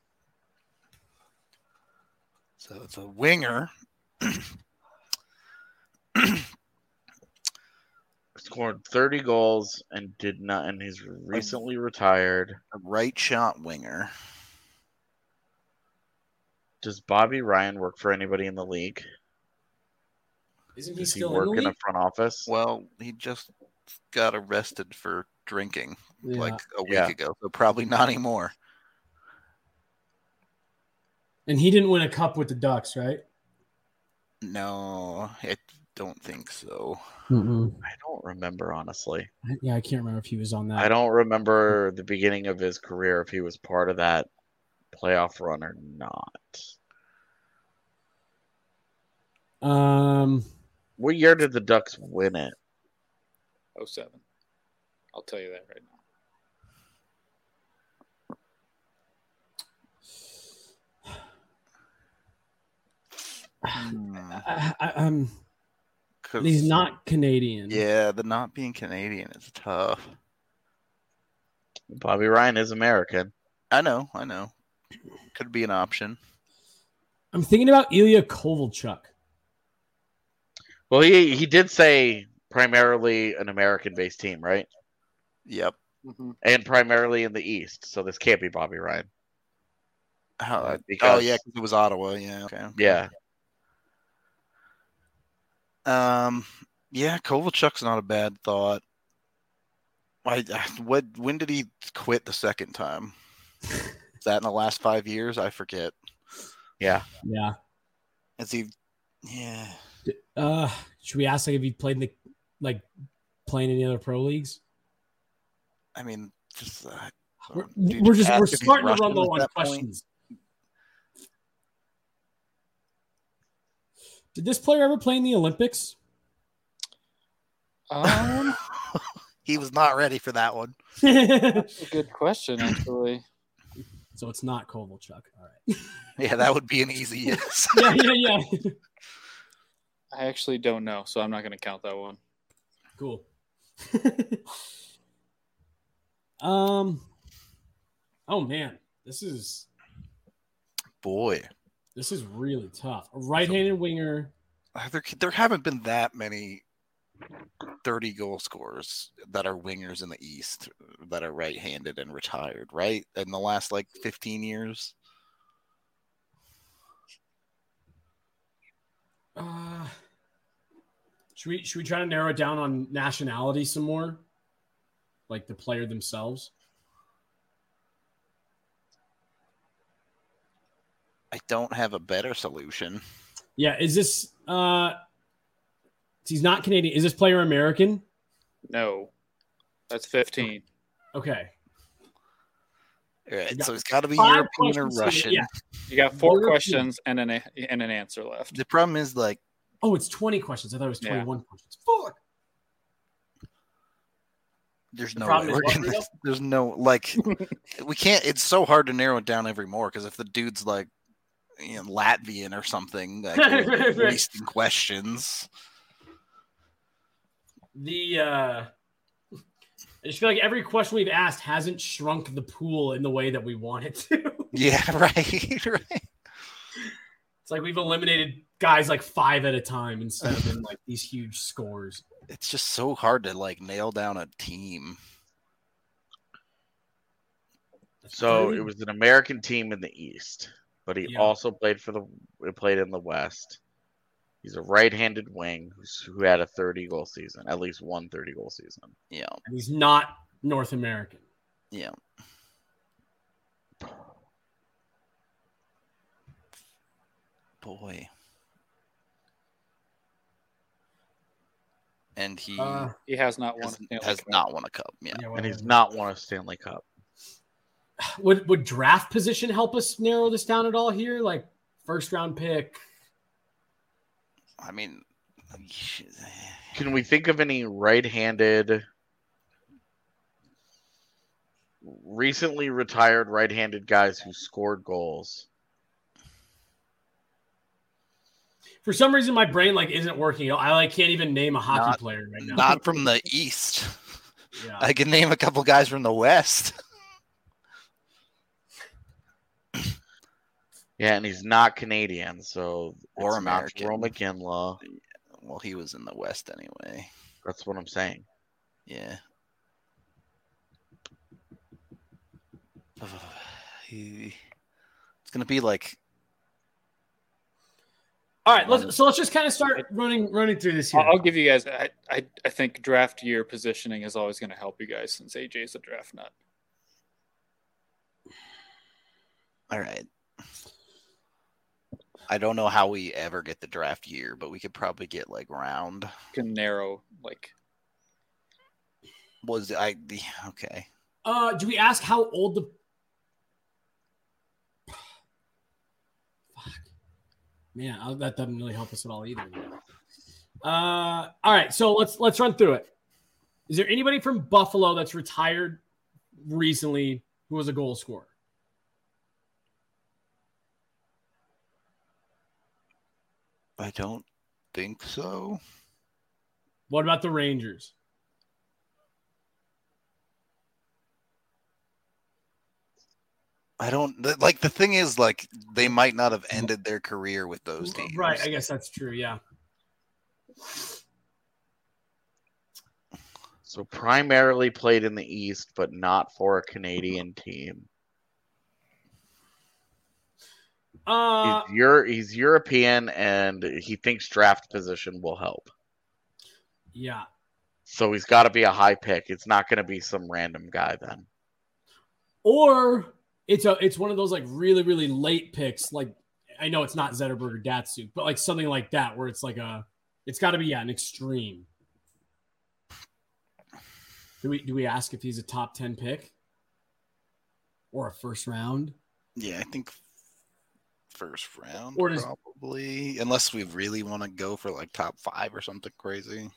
So it's a winger. Scored 30 goals and did not, and he's recently retired. A right shot winger. Does Bobby Ryan work for anybody in the league? Isn't he Does he still work in the in a league? front office? Well, he just got arrested for drinking like a week Yeah. ago, so probably not anymore. And he didn't win a cup with the Ducks, right? No, I don't think so. I don't remember, honestly. Yeah, I can't remember if he was on that. I don't remember the beginning of his career, if he was part of that playoff run or not. What year did the Ducks win it? 07. I'll tell you that right now. He's not Canadian. Yeah, the not being Canadian is tough. Bobby Ryan is American. I know. Could be an option. I'm thinking about Ilya Kovalchuk. Well, he did say primarily an American-based team, right? Yep. Mm-hmm. And primarily in the East, so this can't be Bobby Ryan. Yeah, Because because it was Ottawa. Yeah. Okay. Yeah. Yeah, Kovalchuk's not a bad thought. When did he quit the second time? Is that in the last 5 years? I forget. Yeah. Yeah. Is he? Yeah. Should we ask if he played playing in the other pro leagues? I mean, just we're starting to run low on questions. Did this player ever play in the Olympics? He was not ready for that one. That's a good question, actually. So it's not Kovalchuk. All right. Yeah, that would be an easy yes. Yeah. I actually don't know, so I'm not going to count that one. Cool. Oh man, this is really tough. A right-handed winger. There haven't been that many 30 goal scorers that are wingers in the East that are right-handed and retired, right? In the last 15 years. Should we try to narrow it down on nationality some more? Like the player themselves? I don't have a better solution. Yeah, is this he's not Canadian. Is this player American? No. That's 15. Okay. All right, so it's got to be European or Russian. Yeah. You got 4 questions and an answer left. The problem is it's 20 questions. I thought it was 21 questions. Fuck. There's no way we're gonna, there's no we can't. It's so hard to narrow it down every more because if the dude's Latvian or something, wasting questions. I just feel like every question we've asked hasn't shrunk the pool in the way that we want it to. Yeah, right. It's like we've eliminated guys 5 at a time instead of in these huge scores. It's just so hard to nail down a team. So it was an American team in the East, but he also played in the West. He's a right-handed wing who had a 30-goal season, at least one 30-goal season. Yeah. And he's not North American. Yeah. Boy. And he has not won a cup. Yeah. And he's not won a Stanley Cup. Would draft position help us narrow this down at all here? First round pick? I mean, can we think of any right-handed, recently retired right-handed guys who scored goals? For some reason, my brain isn't working. I can't even name a hockey player right now. Not from the East. Yeah. I can name a couple guys from the West. Yeah, and he's not Canadian, so or American. Jarome Iginla. Well, he was in the West anyway. That's what I'm saying. Yeah. It's gonna be All right, let's just kind of start running through this here. I'll give you guys. I think draft year positioning is always going to help you guys since AJ is a draft nut. All right. I don't know how we ever get the draft year, but we could probably get like round. Can narrow like. Okay. Do we ask how old the? Fuck. Man, that doesn't really help us at all either. All right, so let's run through it. Is there anybody from Buffalo that's retired recently who was a goal scorer? I don't think so. What about the Rangers? I don't like the thing is like they might not have ended their career with those teams. Right, I guess that's true, yeah. So primarily played in the East, but not for a Canadian team. He's European, and he thinks draft position will help. Yeah. So he's got to be a high pick. It's not going to be some random guy then. Or it's one of those like really, really late picks. Like I know it's not Zetterberg or Datsuk, but like something like that where it's like it's got to be an extreme. Do we ask if he's a top 10 pick or a first round? Yeah, I think first round or probably, unless we really want to go for like top 5 or something crazy.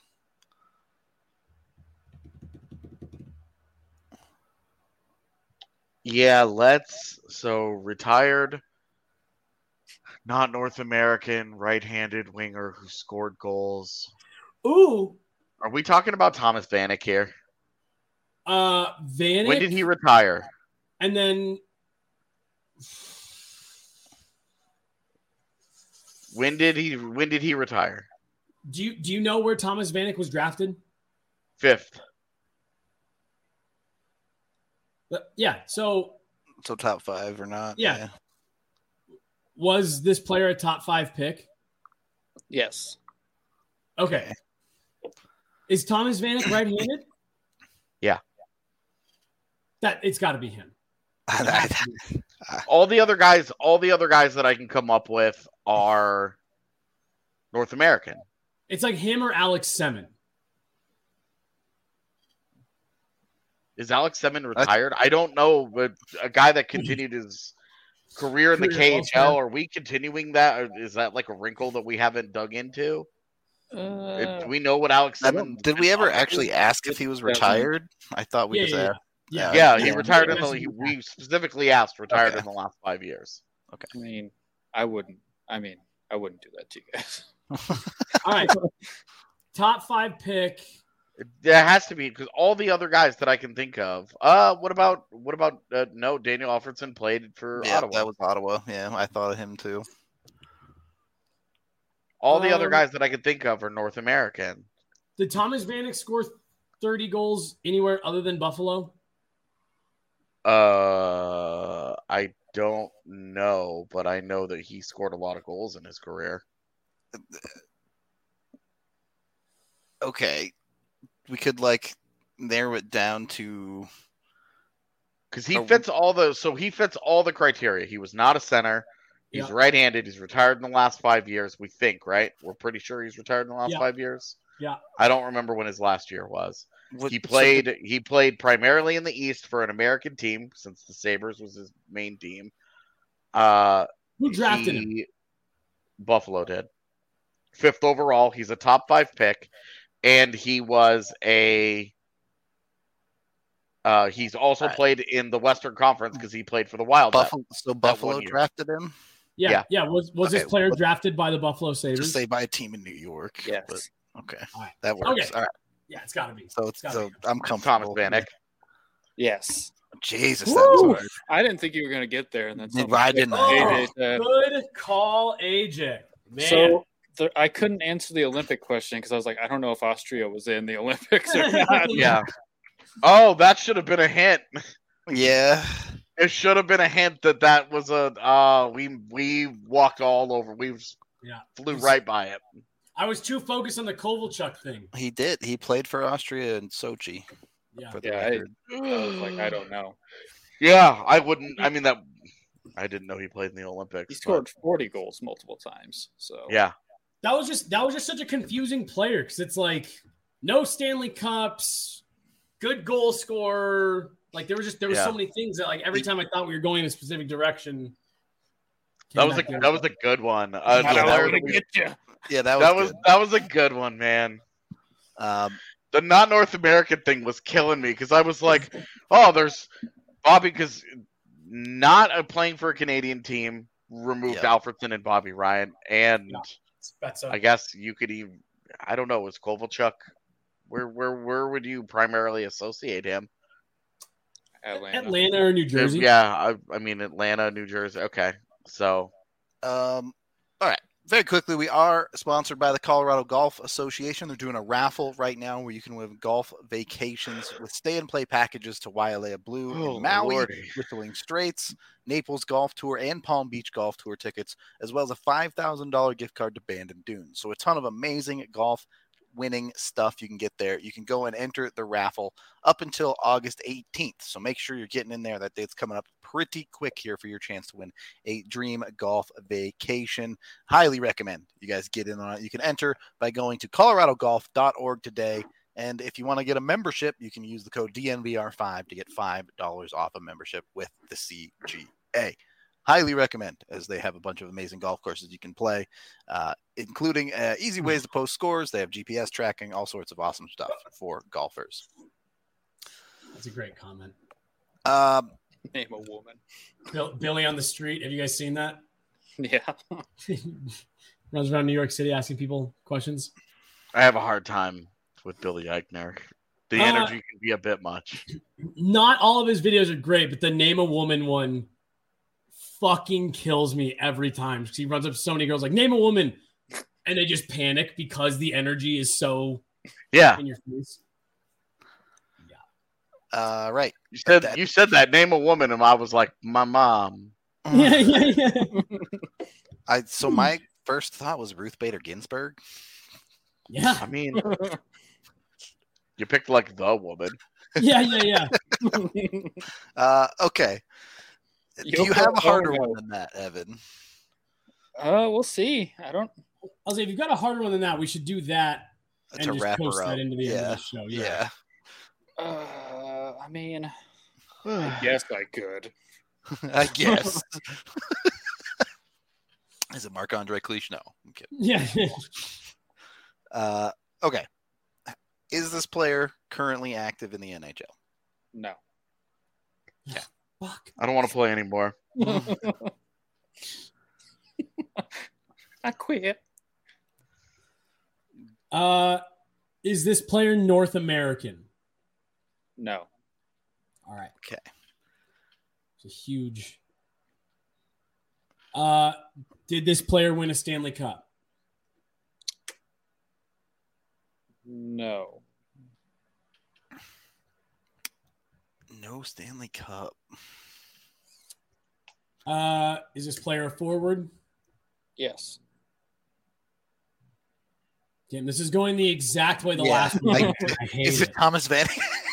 Yeah, so retired, not North American, right-handed winger who scored goals. Ooh. Are we talking about Thomas Vanek here? Vanek. When did he retire? And then when did he retire? Do you know where Thomas Vanek was drafted? 5th. Yeah, so top 5 or not? Yeah. Was this player a top 5 pick? Yes. Okay. Is Thomas Vanek right-handed? Yeah. That it's got to be him. All the other guys that I can come up with are North American. It's like him or Alex Semin. Is Alex Semin retired? I don't know, but a guy that continued his career in the KHL, are we continuing that? Or is that like a wrinkle that we haven't dug into? Do we know what Alex Semin... Did we ever actually ask if he was retired? I thought we just asked. Yeah, he retired we specifically asked retired in the last 5 years. Okay. I mean, I wouldn't do that to you guys. All right. Top 5 pick. There has to be, because all the other guys that I can think of. What about no, Daniel Alfredson played for Ottawa. That was Ottawa. Yeah, I thought of him too. All the other guys that I can think of are North American. Did Thomas Vanek score 30 goals anywhere other than Buffalo? I don't know, but I know that he scored a lot of goals in his career. Okay. We could like narrow it down to because he fits all the criteria. He was not a center. He's right-handed. He's retired in the last 5 years. We think, right? We're pretty sure he's retired in the last 5 years. Yeah. I don't remember when his last year was. He played primarily in the East for an American team since the Sabres was his main team. Who drafted him? Buffalo did. 5th overall. He's a top 5 pick. And he was he's also played in the Western Conference because he played for the Wild. Buffalo drafted him? Yeah. Was this player drafted by the Buffalo Sabres? Just say by a team in New York. Yes. But, okay. Right. That works. Okay. All right. Yeah, it's got to be. So I'm comfortable. Thomas Vanek. Yes. Jesus, that was hard. I didn't think you were going to get there. And then I didn't. Good call, AJ. Man. So I couldn't answer the Olympic question because I was like, I don't know if Austria was in the Olympics or not. Yeah. Oh, that should have been a hint. Yeah. It should have been a hint that was we walked all over. Yeah. Flew right by it. I was too focused on the Kovalchuk thing. He did. He played for Austria and Sochi. Yeah. For the Yeah, record. I was like, I don't know. Yeah, I wouldn't. I mean, that I didn't know he played in the Olympics. He scored 40 goals multiple times. So Yeah. That was just such a confusing player because it's like no Stanley Cups, good goal scorer. Like there was so many things that like every time I thought we were going in a specific direction. That was a good one. I want to get you. Yeah, that was a good one, man. Um, The not North American thing was killing me because I was like, oh, there's Bobby because not playing for a Canadian team removed Alfredson and Bobby Ryan, and I guess you could even I don't know, was Kovalchuk where would you primarily associate him? Atlanta or New Jersey? Yeah, I mean Atlanta, New Jersey. Okay, so all right. Very quickly, we are sponsored by the Colorado Golf Association. They're doing a raffle right now where you can win golf vacations with stay-and-play packages to Wailea Blue in Maui, Whistling Straits, Naples Golf Tour, and Palm Beach Golf Tour tickets, as well as a $5,000 gift card to Bandon Dunes. So a ton of amazing golf winning stuff you can get there. You can go and enter the raffle up until August 18th. So make sure you're getting in there. That date's coming up pretty quick here for your chance to win a dream golf vacation. Highly recommend you guys get in on it. You can enter by going to coloradogolf.org today. And if you want to get a membership, you can use the code DNVR5 to get $5 off a membership with the CGA. Highly recommend, as they have a bunch of amazing golf courses you can play, including easy ways to post scores. They have GPS tracking, all sorts of awesome stuff for golfers. That's a great comment. Name a woman. Billy on the street. Have you guys seen that? Yeah. Runs around New York City asking people questions. I have a hard time with Billy Eichner. The energy can be a bit much. Not all of his videos are great, but the name a woman one fucking kills me every time. He runs up to so many girls like, name a woman, and they just panic because the energy is so in your face. Right. You said that name a woman, and I was like, my mom. Yeah. So my first thought was Ruth Bader Ginsburg. Yeah. I mean, you picked like the woman. Yeah. Okay. Do you have a harder one than that, Evan? We'll see. I'll say if you've got a harder one than that, we should do that and to just wrap post her up. that into the end of the show. Yeah. I mean, I guess I could. I guess. Is it Marc-Andre Cliche? No, I'm kidding. Yeah. Okay. Is this player currently active in the NHL? No. Okay. Fuck. I don't want to play anymore. I quit. Is this player North American? No. All right. Okay. It's a huge. Did this player win a Stanley Cup? No. No Stanley Cup. Is this player a forward? Yes. Damn, this is going the exact way the last one. I hate is it Thomas Vanek?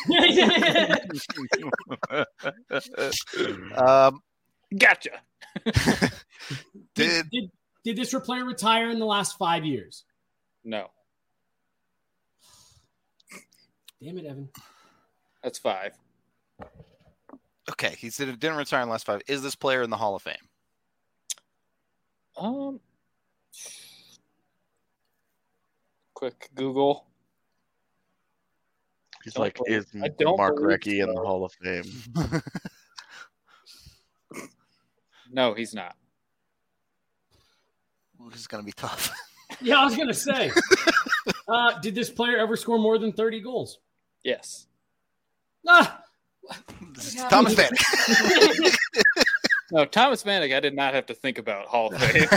Gotcha. Did this player retire in the last 5 years? No. Damn it, Evan. That's 5. Okay, he said it didn't retire in the last 5. Is this player in the Hall of Fame? Quick Google. He's like, is Mark Recchi in the Hall of Fame? No, he's not. This is going to be tough. Yeah, I was going to say. Did this player ever score more than 30 goals? Yes. Thomas Vanek. No, Thomas Vanek, I did not have to think about Hall of Fame.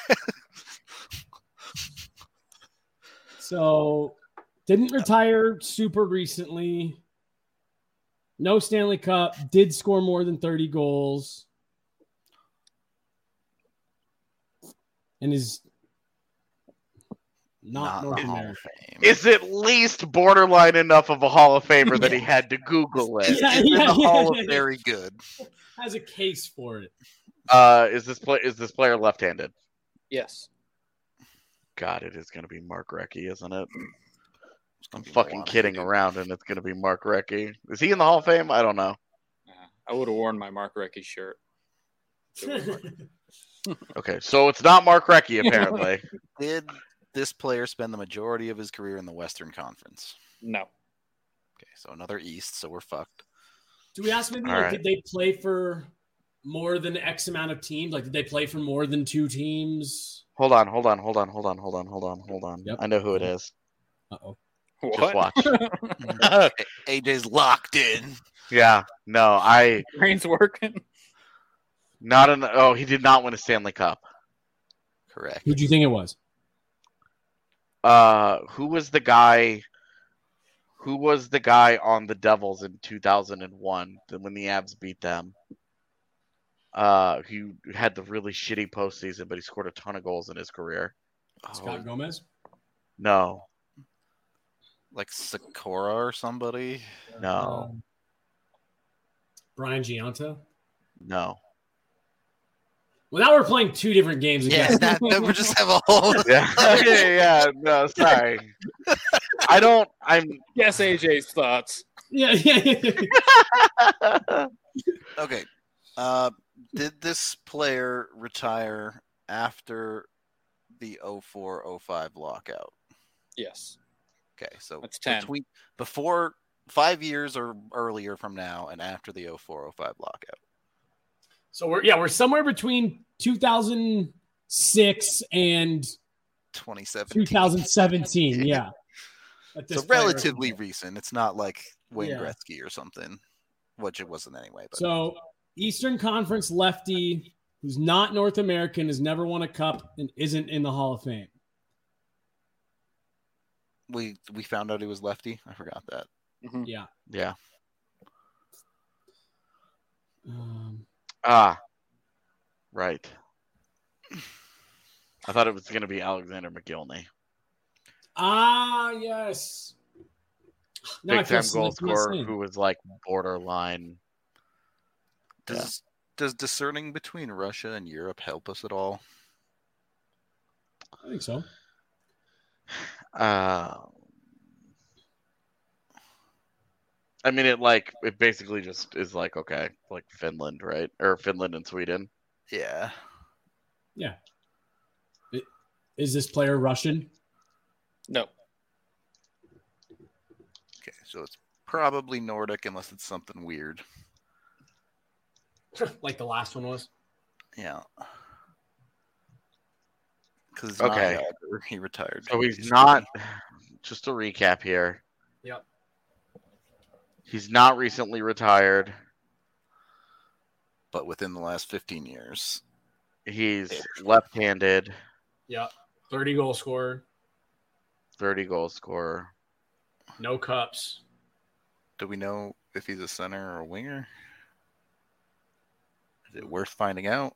So, didn't retire super recently. No Stanley Cup. Did score more than 30 goals. And is Not North the Hall of America. Fame. Is at least borderline enough of a Hall of Famer that he had to Google it. Yeah, It's in the Hall yeah. of Very Good. Has a case for it. Is this player left-handed? Yes. God, it is going to be Mark Recchi, isn't it? I'm Be fucking Milwaukee, kidding dude. around, and it's going to be Mark Recchi. Is he in the Hall of Fame? I don't know. I would have worn my Mark Recchi shirt. Okay, so it's not Mark Recchi, apparently. Did this player spend the majority of his career in the Western Conference? No. Okay, so another East, so we're fucked. Do we ask maybe All like, right. did they play for more than X amount of teams? Like, did they play for more than 2 teams? Hold on. Yep. I know who it is. Uh-oh. What? Just watch. AJ's locked in. Yeah, no, Brain's working. he did not win a Stanley Cup. Correct. Who do you think it was? Who was the guy on the Devils in 2001 when the Avs beat them? He had the really shitty postseason, but he scored a ton of goals in his career. Scott Gomez? No, Like Sakura or somebody. no, Brian Giunta? no. Well, now we're playing 2 different games again. Yeah, that we just have a whole. Yeah, no, sorry. I'm Guess AJ's thoughts. yeah. Okay. Did this player retire after the 04-05 lockout? Yes. Okay, so That's 10. Before 5 years or earlier from now, and after the 04-05 lockout. So we're somewhere between 2006 and 2017. 2017. Yeah. So relatively recent. It's not like Wayne Yeah. Gretzky or something, which it wasn't anyway. But So Eastern Conference lefty who's not North American, has never won a cup, and isn't in the Hall of Fame. we found out he was lefty. I forgot that. Mhm. Yeah. Yeah. Right. I thought it was going to be Alexander McGillney. Yes. Now I Big feel time sick goal for not scorer saying. who was like borderline. Does discerning between Russia and Europe help us at all? I think so. I mean, it basically just is like, okay, like Finland, right? Or Finland and Sweden. Yeah. Yeah. Is this player Russian? No. Okay, so it's probably Nordic unless it's something weird. Like the last one was? Yeah. Because Okay. he retired. So he's not. Just to recap here. Yep. He's not recently retired. But within the last 15 years. He's left-handed. Yep. 30 goal scorer. 30 goal scorer. No cups. Do we know if he's a center or a winger? Is it worth finding out?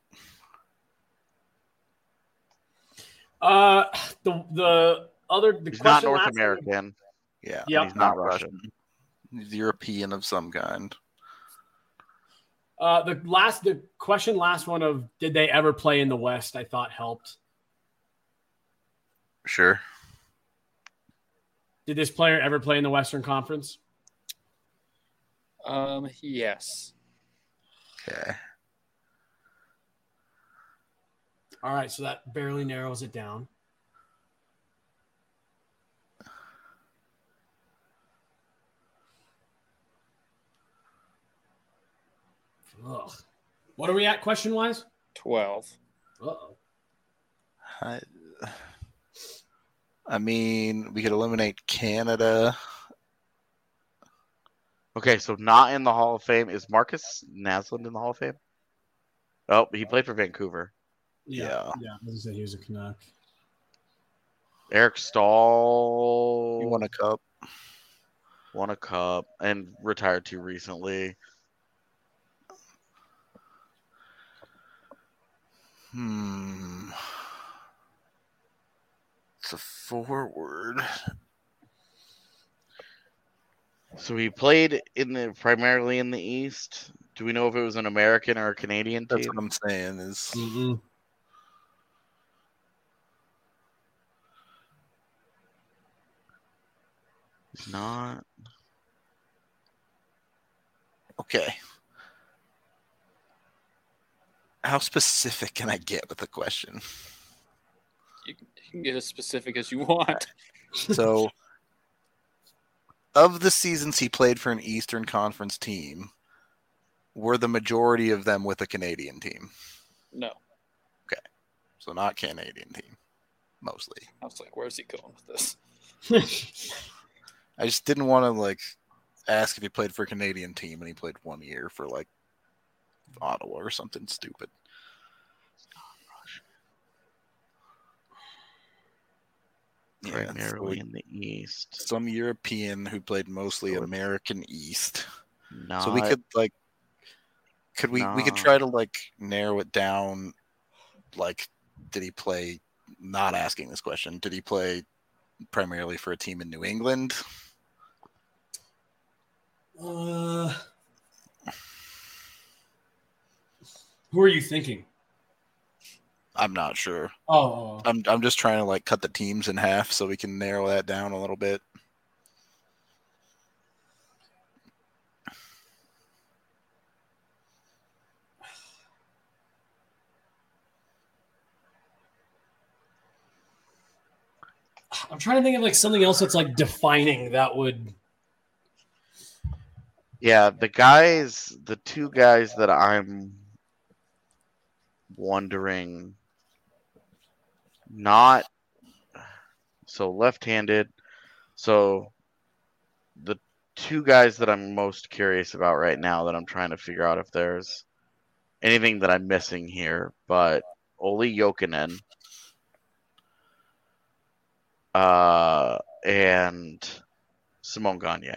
The He's not question North last- American. Yeah. Yep. He's not Russian. He's European of some kind. The question last one of did they ever play in the West, I thought helped. Sure. Did this player ever play in the Western Conference? Yes. Okay. All right, so that barely narrows it down. Ugh. What are we at question-wise? 12. Uh-oh. I mean, we could eliminate Canada. Okay, so not in the Hall of Fame. Is Marcus Naslund in the Hall of Fame? Oh, he played for Vancouver. Yeah. Yeah, I was gonna say he was a Canuck. Eric Stahl. He won a cup. Won a cup and retired too recently. It's a forward. So he played primarily in the East. Do we know if it was an American or a Canadian That's team? what I'm saying is Mm-mm. It's not. okay. How specific can I get with the question? You can get as specific as you want. So, of the seasons he played for an Eastern Conference team, were the majority of them with a Canadian team? No. So not Canadian team, mostly. I was like, where's he going with this? I just didn't want to ask if he played for a Canadian team and he played 1 year for Ottawa or something stupid. Primarily in the East. Some European who played mostly American East. Not, so we could we could try to narrow it down. Did he play? Not asking this question. Did he play primarily for a team in New England? Who are you thinking? I'm not sure. Oh. I'm just trying to cut the teams in half so we can narrow that down a little bit. I'm trying to think of something else that's defining that would. Yeah, the two guys that I'm wondering, not so left-handed. So the two guys that I'm most curious about right now that I'm trying to figure out if there's anything that I'm missing here, but Olli Jokinen and Simon Gagne.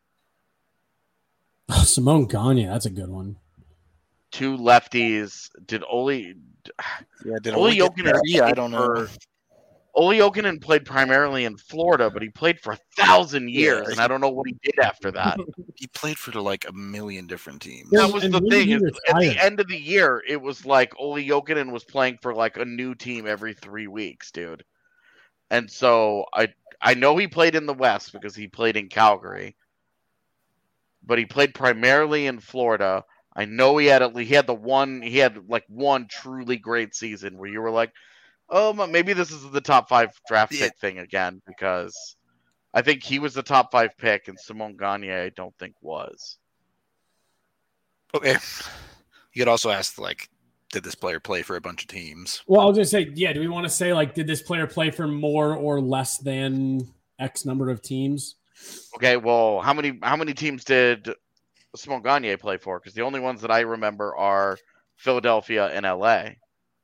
Oh, Simon Gagne, that's a good one. Two lefties. Did Olli Jokinen? I don't know. Olli Jokinen played primarily in Florida, but he played for 1,000 years, and I don't know what he did after that. He played for a million different teams. That was the thing. At the end of the year, it was Olli Jokinen was playing for a new team every 3 weeks, dude. And so I know he played in the West because he played in Calgary, but he played primarily in Florida. I know he had one truly great season where you were like, oh, maybe this is the top 5 draft pick thing again, because I think he was the top 5 pick and Simon Gagne I don't think was. Okay. You could also ask did this player play for a bunch of teams? Well, I was going to say, yeah, do we want to say did this player play for more or less than X number of teams? Okay, well, how many teams did Simon Gagne play for? Because the only ones that I remember are Philadelphia and LA.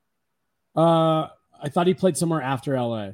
I thought he played somewhere after LA.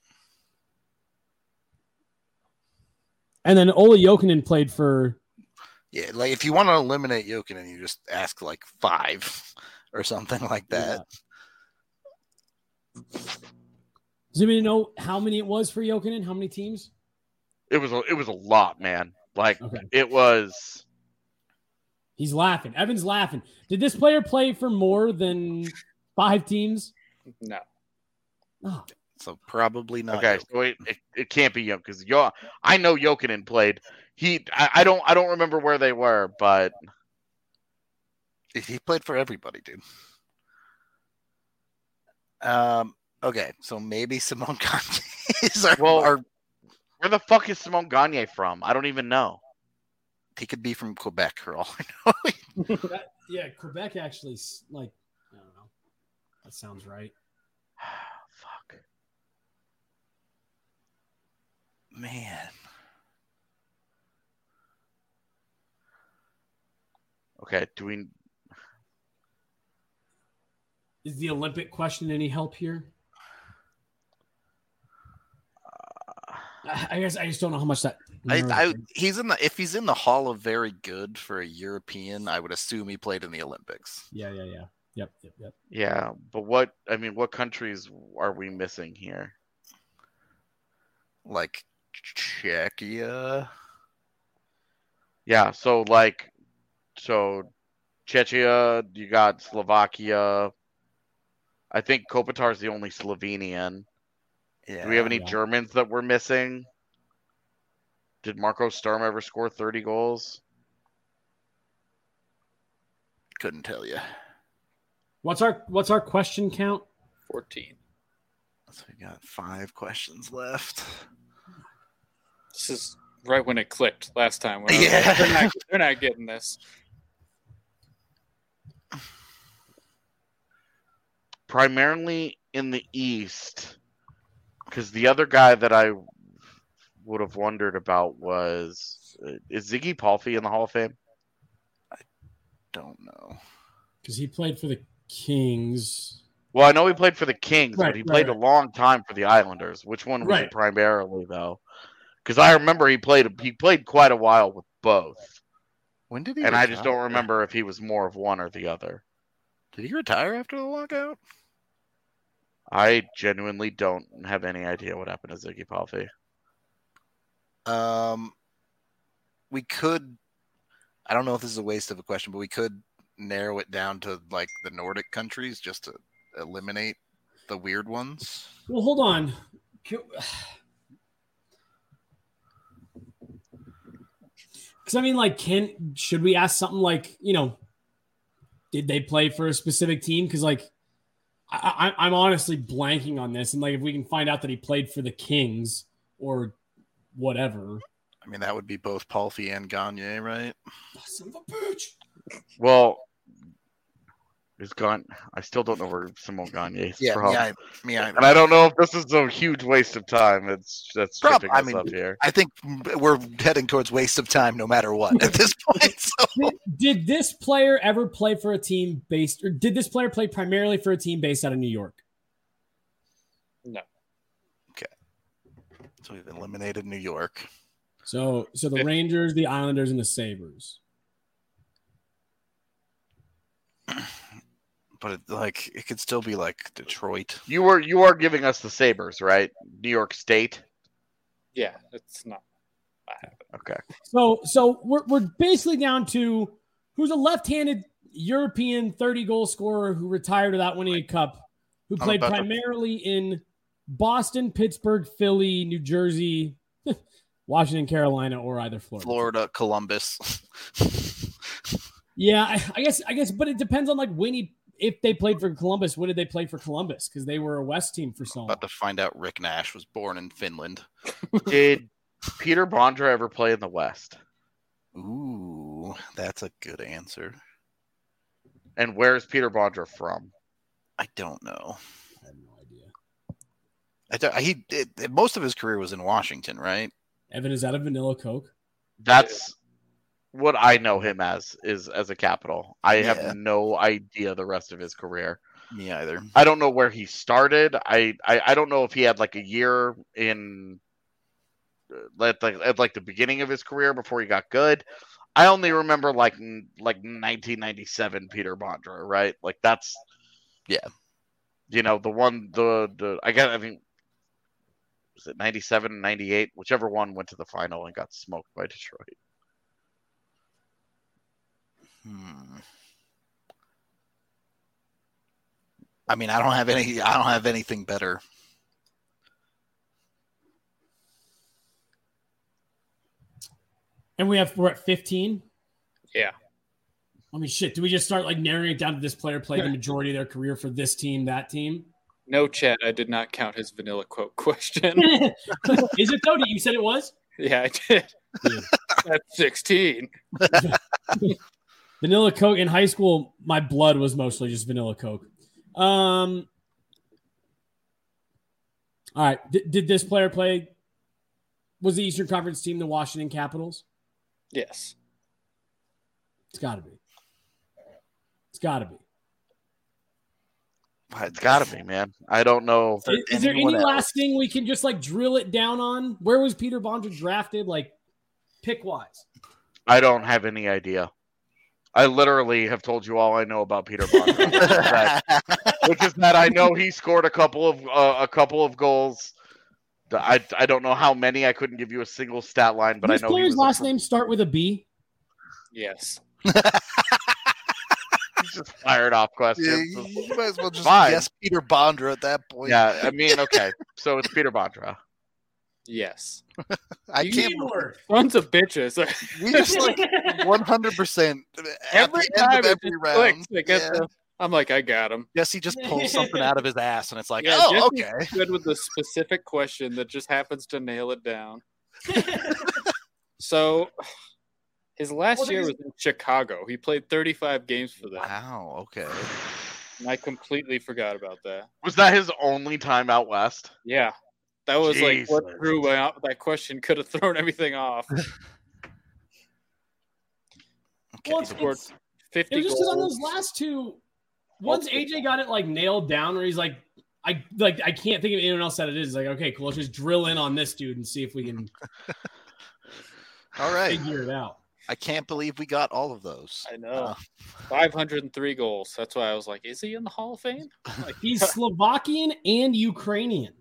And then Olli Jokinen played for. Yeah, if you want to eliminate Jokinen, you just ask 5 or something like that. Yeah. Does anybody know how many it was for Jokinen? How many teams? It was a lot, man. Okay. It was. He's laughing. Evan's laughing. Did this player play for more than 5 teams? No. Oh. So probably not. Okay, so it can't be Jokinen because I know Jokinen played. I don't remember where they were, but he played for everybody, dude. Okay, so maybe Simon Gagne is our. Where the fuck is Simon Gagne from? I don't even know. He could be from Quebec for all I know. Quebec actually, I don't know. That sounds right. Fuck. Man. Okay, Is the Olympic question any help here? I guess I just don't know how much that. If he's in the Hall of Very Good for a European, I would assume he played in the Olympics. Yeah. Yep. Yeah, but what countries are we missing here? like Czechia. Yeah, so Czechia, you got Slovakia. I think Kopitar's the only Slovenian. Yeah. Do we have any Yeah. Germans that we're missing? Did Marco Sturm ever score 30 goals? Couldn't tell you. What's our question count? 14. So we got 5 questions left. This is right when it clicked last time. When Yeah. they're not getting this. Primarily in the East, because the other guy that I would have wondered about was is Ziggy Palffy in the Hall of Fame? Don't know. Because he played for the Kings. Well, I know he played for the Kings, Right, but he played right. a long time for the Islanders. Which one was Right. it primarily, though? Because I remember he played quite a while with both, When did he and retire? I just don't remember if he was more of one or the other. Did he retire after the lockout? I genuinely don't have any idea what happened to Ziggy Palffy. We could. I don't know if this is a waste of a question, but we could narrow it down to like the Nordic countries just to eliminate the weird ones. Well, hold on. Because I mean, like, should we ask something like, did they play for a specific team? Because like, I'm honestly blanking on this, and like, if we can find out that he played for the Kings or whatever. I mean, that would be both Palffy and Gagne, right? Oh, son of a bitch. Well, is gone. I still don't know where Simon Gagne is from. Me either. And I don't know if this is a huge waste of time. That's tripping us up here. I think we're heading towards waste of time no matter what at this point. So. Did this player ever play for a team based, or did this player play primarily for a team based out of New York? No. Okay. So we've eliminated New York. So the Rangers, the Islanders, and the Sabres. But it could still be like Detroit. You are giving us the Sabres, right? New York State. Yeah, it's not. Okay. So we're basically down to who's a left-handed European 30-goal scorer who retired without winning a cup, who played primarily in Boston, Pittsburgh, Philly, New Jersey, Washington, Carolina, or either Florida. Columbus. Yeah, I guess, but it depends on like if they played for Columbus, when did they play for Columbus? Because they were a West team for so long. About to find out Rick Nash was born in Finland. Did Peter Bondra ever play in the West? Ooh, that's a good answer. And where is Peter Bondra from? I don't know. I have no idea. Most of his career was in Washington, right? Evan, is that a vanilla Coke? That's what I know him as a Capital. I have no idea the rest of his career. Me either. I don't know where he started. I don't know if he had like a year in at the beginning of his career before he got good. I only remember like 1997 Peter Bondra, right? Like that's the one I mean was it 97 and 98, whichever one went to the final and got smoked by Detroit. I mean, I don't have anything better. And we're at 15. Yeah. I mean, shit. Do we just start like narrowing it down to this player played the majority of their career for this team, that team? No, chat. I did not count his vanilla quote question. Is it though? You said it was? Yeah, I did. That's 16. Vanilla Coke in high school, my blood was mostly just vanilla Coke. All right. Did this player play? Was the Eastern Conference team the Washington Capitals? Yes. It's got to be. It's got to be. It's got to be, man. I don't know. Is there any last thing we can just like drill it down on? Where was Peter Bondra drafted, like pick wise? I don't have any idea. I literally have told you all I know about Peter Bondra, which is that I know he scored a couple of goals I don't know how many. I couldn't give you a single stat line, but Which I know player's last name start with a B? Yes. He's just fired off questions. Yeah, you might as well just Fine. guess Peter Bondra at that point. Yeah, I mean, okay. So it's Peter Bondra. Yes. I can't. Bueller. Sons of bitches. We just like 100% Every time it just clicks, I get Yeah. I'm like, I got him. Jesse just pulls something out of his ass, and it's like, Yeah, oh, Jesse's okay. good with the specific question that just happens to nail it down. So, his last year was in Chicago. He played 35 games for them, Wow. Okay. and I completely forgot about that. Was that his only time out west? Yeah, that was like what Jesus. threw me out. That question could have thrown everything off. Okay. Well, He scored 50 It was just because on goals. those last two, once AJ got it like nailed down, where he's like, I can't think of anyone else that it is. It's like, okay, cool, let's just drill in on this dude and see if we can All right. figure it out. I can't believe we got all of those. I know. 503 goals. That's why I was like, is he in the Hall of Fame? Like, He's Slovakian and Ukrainian.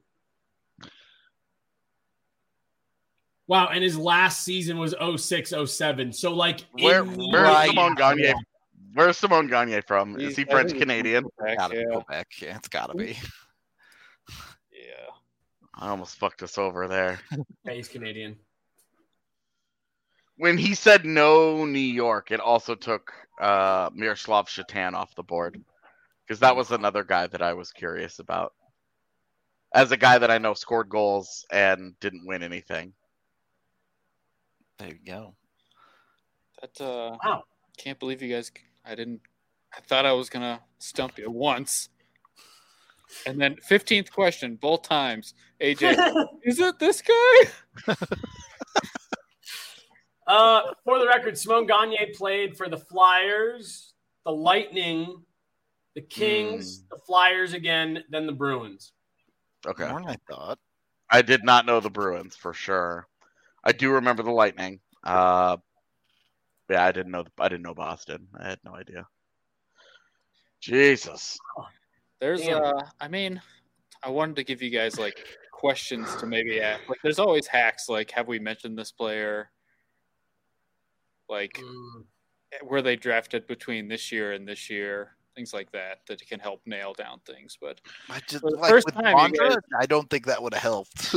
Wow, and his last season was 06-07. So like Where's Right. Simone Gagne? Where's Simone Gagne from? Is he I French think Canadian? he's Gotta yeah. go back. Yeah, it's gotta be. Yeah. I almost fucked us over there. Yeah, he's Canadian. When he said no New York, it also took Miroslav Shatan off the board. Because that was another guy that I was curious about. As a guy that I know scored goals and didn't win anything. There you go. That Wow. can't believe you guys. I thought I was gonna stump you once, and then 15th question both times. AJ, is it this guy? For the record, Simone Gagne played for the Flyers, the Lightning, the Kings, the Flyers again, then the Bruins. Okay. More than I thought. I did not know the Bruins for sure. I do remember the Lightning. Yeah, I didn't know Boston. I had no idea. Jesus. There's Damn. I mean, I wanted to give you guys like questions to maybe ask. Like, there's always hacks. Like, have we mentioned this player? Like, were they drafted between this year and this year? Things like that can help nail down things. But I just For the like first with time, you Bondra, guys- I don't think that would have helped.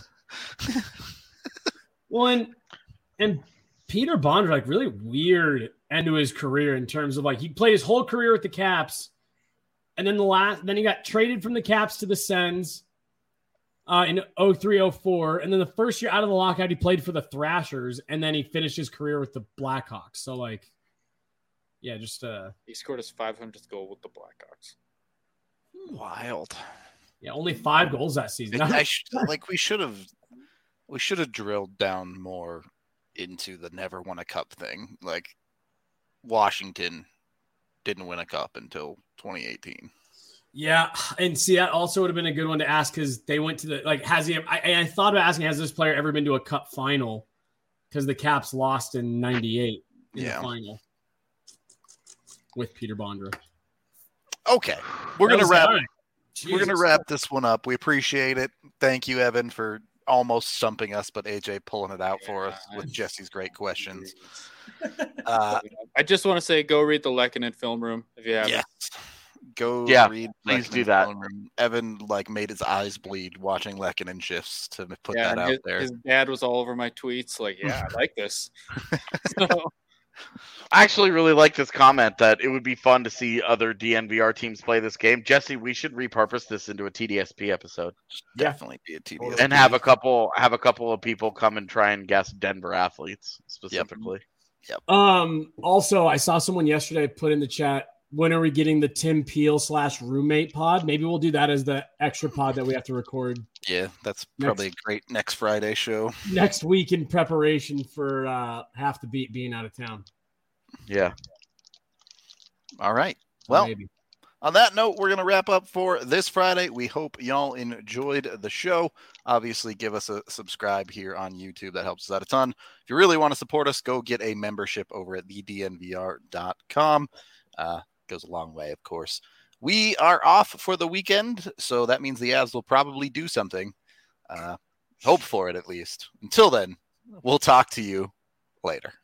Well, and Peter Bondra, like really weird end to his career in terms of like he played his whole career with the Caps, and then then he got traded from the Caps to the Sens in 03-04, and then the first year out of the lockout he played for the Thrashers, and then he finished his career with the Blackhawks. So like, yeah, just he scored his 500th goal with the Blackhawks. Wild. yeah, only 5 goals that season. We should have drilled down more into the never won a cup thing. Like Washington didn't win a cup until 2018. Yeah, and see that also would have been a good one to ask because they went to the like. Has he? I thought about asking, has this player ever been to a cup final? Because the Caps lost in '98 in the final with Peter Bondra. Okay, we're gonna That was- wrap. all right. We're gonna Jesus. wrap this one up. We appreciate it. Thank you, Evan, for almost stumping us, but AJ pulling it out for us with Jesse's great questions. I just want to say, go read the Lehkonen film room if you haven't. Yes. Go Yeah, read. please do Lekkonen's that. phone room. Evan made his eyes bleed watching Lehkonen shifts to put Yeah, that out his, there. his dad was all over my tweets. Like, yeah, I like this. So, I actually really like this comment that it would be fun to see other DNVR teams play this game. Jesse, we should repurpose this into a TDSP episode Definitely be a TDS. and have a couple of people come and try and guess Denver athletes specifically. Also, I saw someone yesterday put in the chat, when are we getting the Tim Peel /roommate pod? Maybe we'll do that as the extra pod that we have to record Yeah, that's probably a great next Friday show. next week in preparation for Half the Beat being out of town. Yeah. All right. Well, Maybe. on that note, we're going to wrap up for this Friday. We hope y'all enjoyed the show. Obviously, give us a subscribe here on YouTube. That helps us out a ton. If you really want to support us, go get a membership over at thednvr.com. Goes a long way, of course. We are off for the weekend, so that means the Avs will probably do something. Hope for it, at least. Until then, we'll talk to you later.